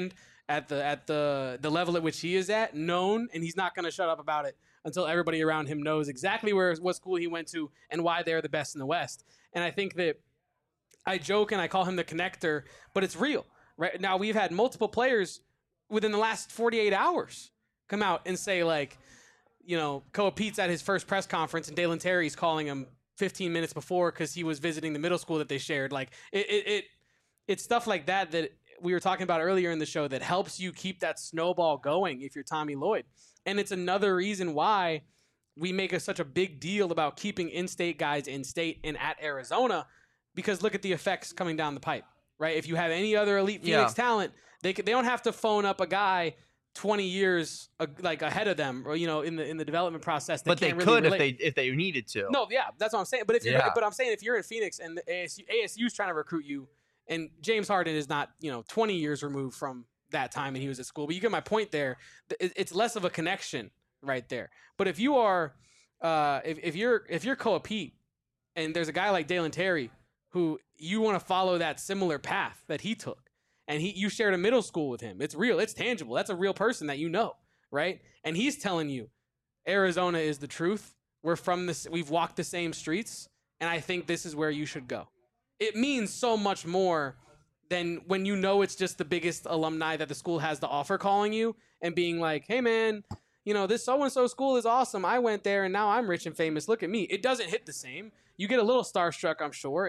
at the level at which he is at known, and he's not going to shut up about it until everybody around him knows exactly what school he went to and why they're the best in the West. And I think that I joke and I call him the connector, but it's real. Right now, we've had multiple players within the last 48 hours come out and say, like, Koa Pete's at his first press conference and Dalen Terry's calling him 15 minutes before because he was visiting the middle school that they shared. Like, it's stuff like that we were talking about earlier in the show that helps you keep that snowball going if you're Tommy Lloyd. And it's another reason why we make such a big deal about keeping in-state guys in-state and at Arizona, because look at the effects coming down the pipe, right? If you have any other elite Phoenix talent, they don't have to phone up a guy 20 years ahead of them, or in the development process. But they could if they needed to. No, yeah, that's what I'm saying. But I'm saying if you're in Phoenix and the ASU's trying to recruit you, and James Harden is not 20 years removed from that time and he was at school, but you get my point there. It's less of a connection right there. But if you are if you're Koa Pete and there's a guy like Dalen Terry who you want to follow that similar path that he took, and you shared a middle school with him, it's real, it's tangible, that's a real person that right? And he's telling you Arizona is the truth, we've walked the same streets, and I think this is where you should go. It means so much more than when it's just the biggest alumni that the school has to offer calling you and being like, hey man, this so-and-so school is awesome. I went there and now I'm rich and famous. Look at me. It doesn't hit the same. You get a little starstruck, I'm sure,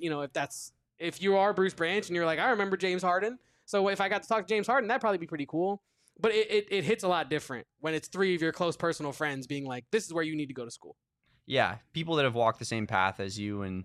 if you are Bruce Branch and you're like, I remember James Harden. So if I got to talk to James Harden, that'd probably be pretty cool. But it hits a lot different when it's three of your close personal friends being like, this is where you need to go to school. Yeah. People that have walked the same path as you and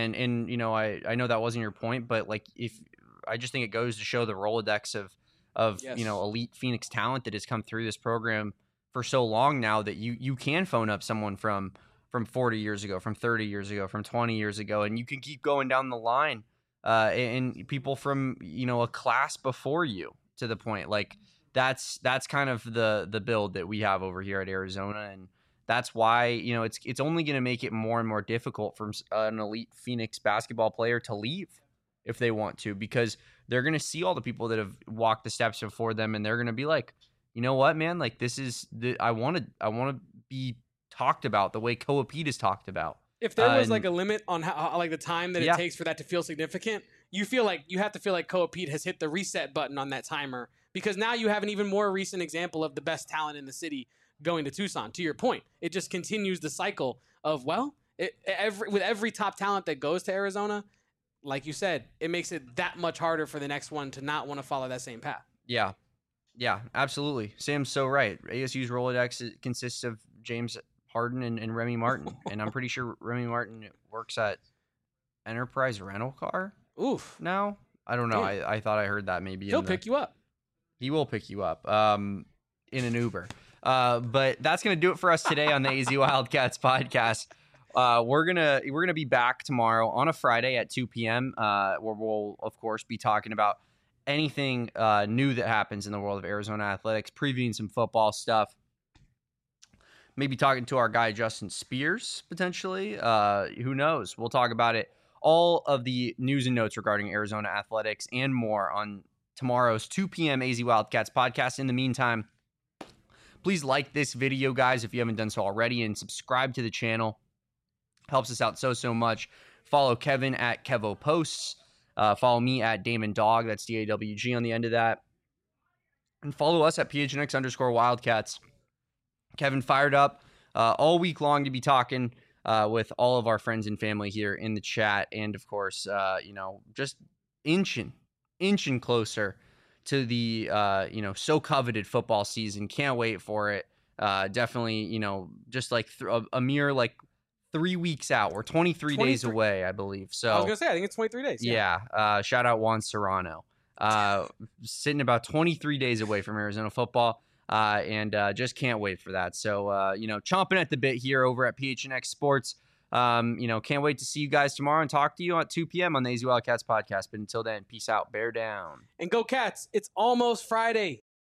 I know that wasn't your point, but like I just think it goes to show the Rolodex of yes. Elite Phoenix talent that has come through this program for so long now that you can phone up someone from 40 years ago, from 30 years ago, from 20 years ago, and you can keep going down the line, and people from a class before you, to the point. Like that's kind of the build that we have over here at Arizona, and that's why it's only going to make it more and more difficult for an elite Phoenix basketball player to leave if they want to, because they're going to see all the people that have walked the steps before them, and they're going to be like, you know what, man, like this is I want to be talked about the way Koa Pete is talked about. If there was like a limit on how like the time that it takes for that to feel significant, you have to feel like Koa Pete has hit the reset button on that timer, because now you have an even more recent example of the best talent in the city going to Tucson. To your point, it just continues the cycle of, with every top talent that goes to Arizona, like you said, it makes it that much harder for the next one to not want to follow that same path. Yeah, absolutely. Sam's so right. ASU's Rolodex consists of James Harden and Remy Martin, and I'm pretty sure Remy Martin works at Enterprise Rental Car. Oof. Now I don't know. I thought I heard that maybe he'll pick you up. He will pick you up in an Uber. But that's gonna do it for us today on the AZ Wildcats podcast. We're gonna be back tomorrow on a Friday at 2 p.m. Where we'll of course be talking about anything new that happens in the world of Arizona athletics, previewing some football stuff. Maybe talking to our guy Justin Spears potentially. Who knows? We'll talk about it. All of the news and notes regarding Arizona athletics and more on tomorrow's 2 p.m. AZ Wildcats podcast. In the meantime, please like this video, guys, if you haven't done so already, and subscribe to the channel. Helps us out so much. Follow Kevin at Kevo Posts. Follow me at Damon Dog. That's DAWG on the end of that. And follow us at PHNX_Wildcats. Kevin fired up all week long to be talking with all of our friends and family here in the chat. And of course, just inching closer to the, so coveted football season. Can't wait for it. Definitely, just like a mere 3 weeks out. We're 23 days away, I believe. So I was going to say, I think it's 23 days. Yeah. Shout out Juan Serrano. Sitting about 23 days away from Arizona football. And just can't wait for that. So, chomping at the bit here over at PHNX Sports. Can't wait to see you guys tomorrow and talk to you at 2 p.m. on the AZ Wildcats podcast. But until then, peace out, bear down. And go Cats. It's almost Friday.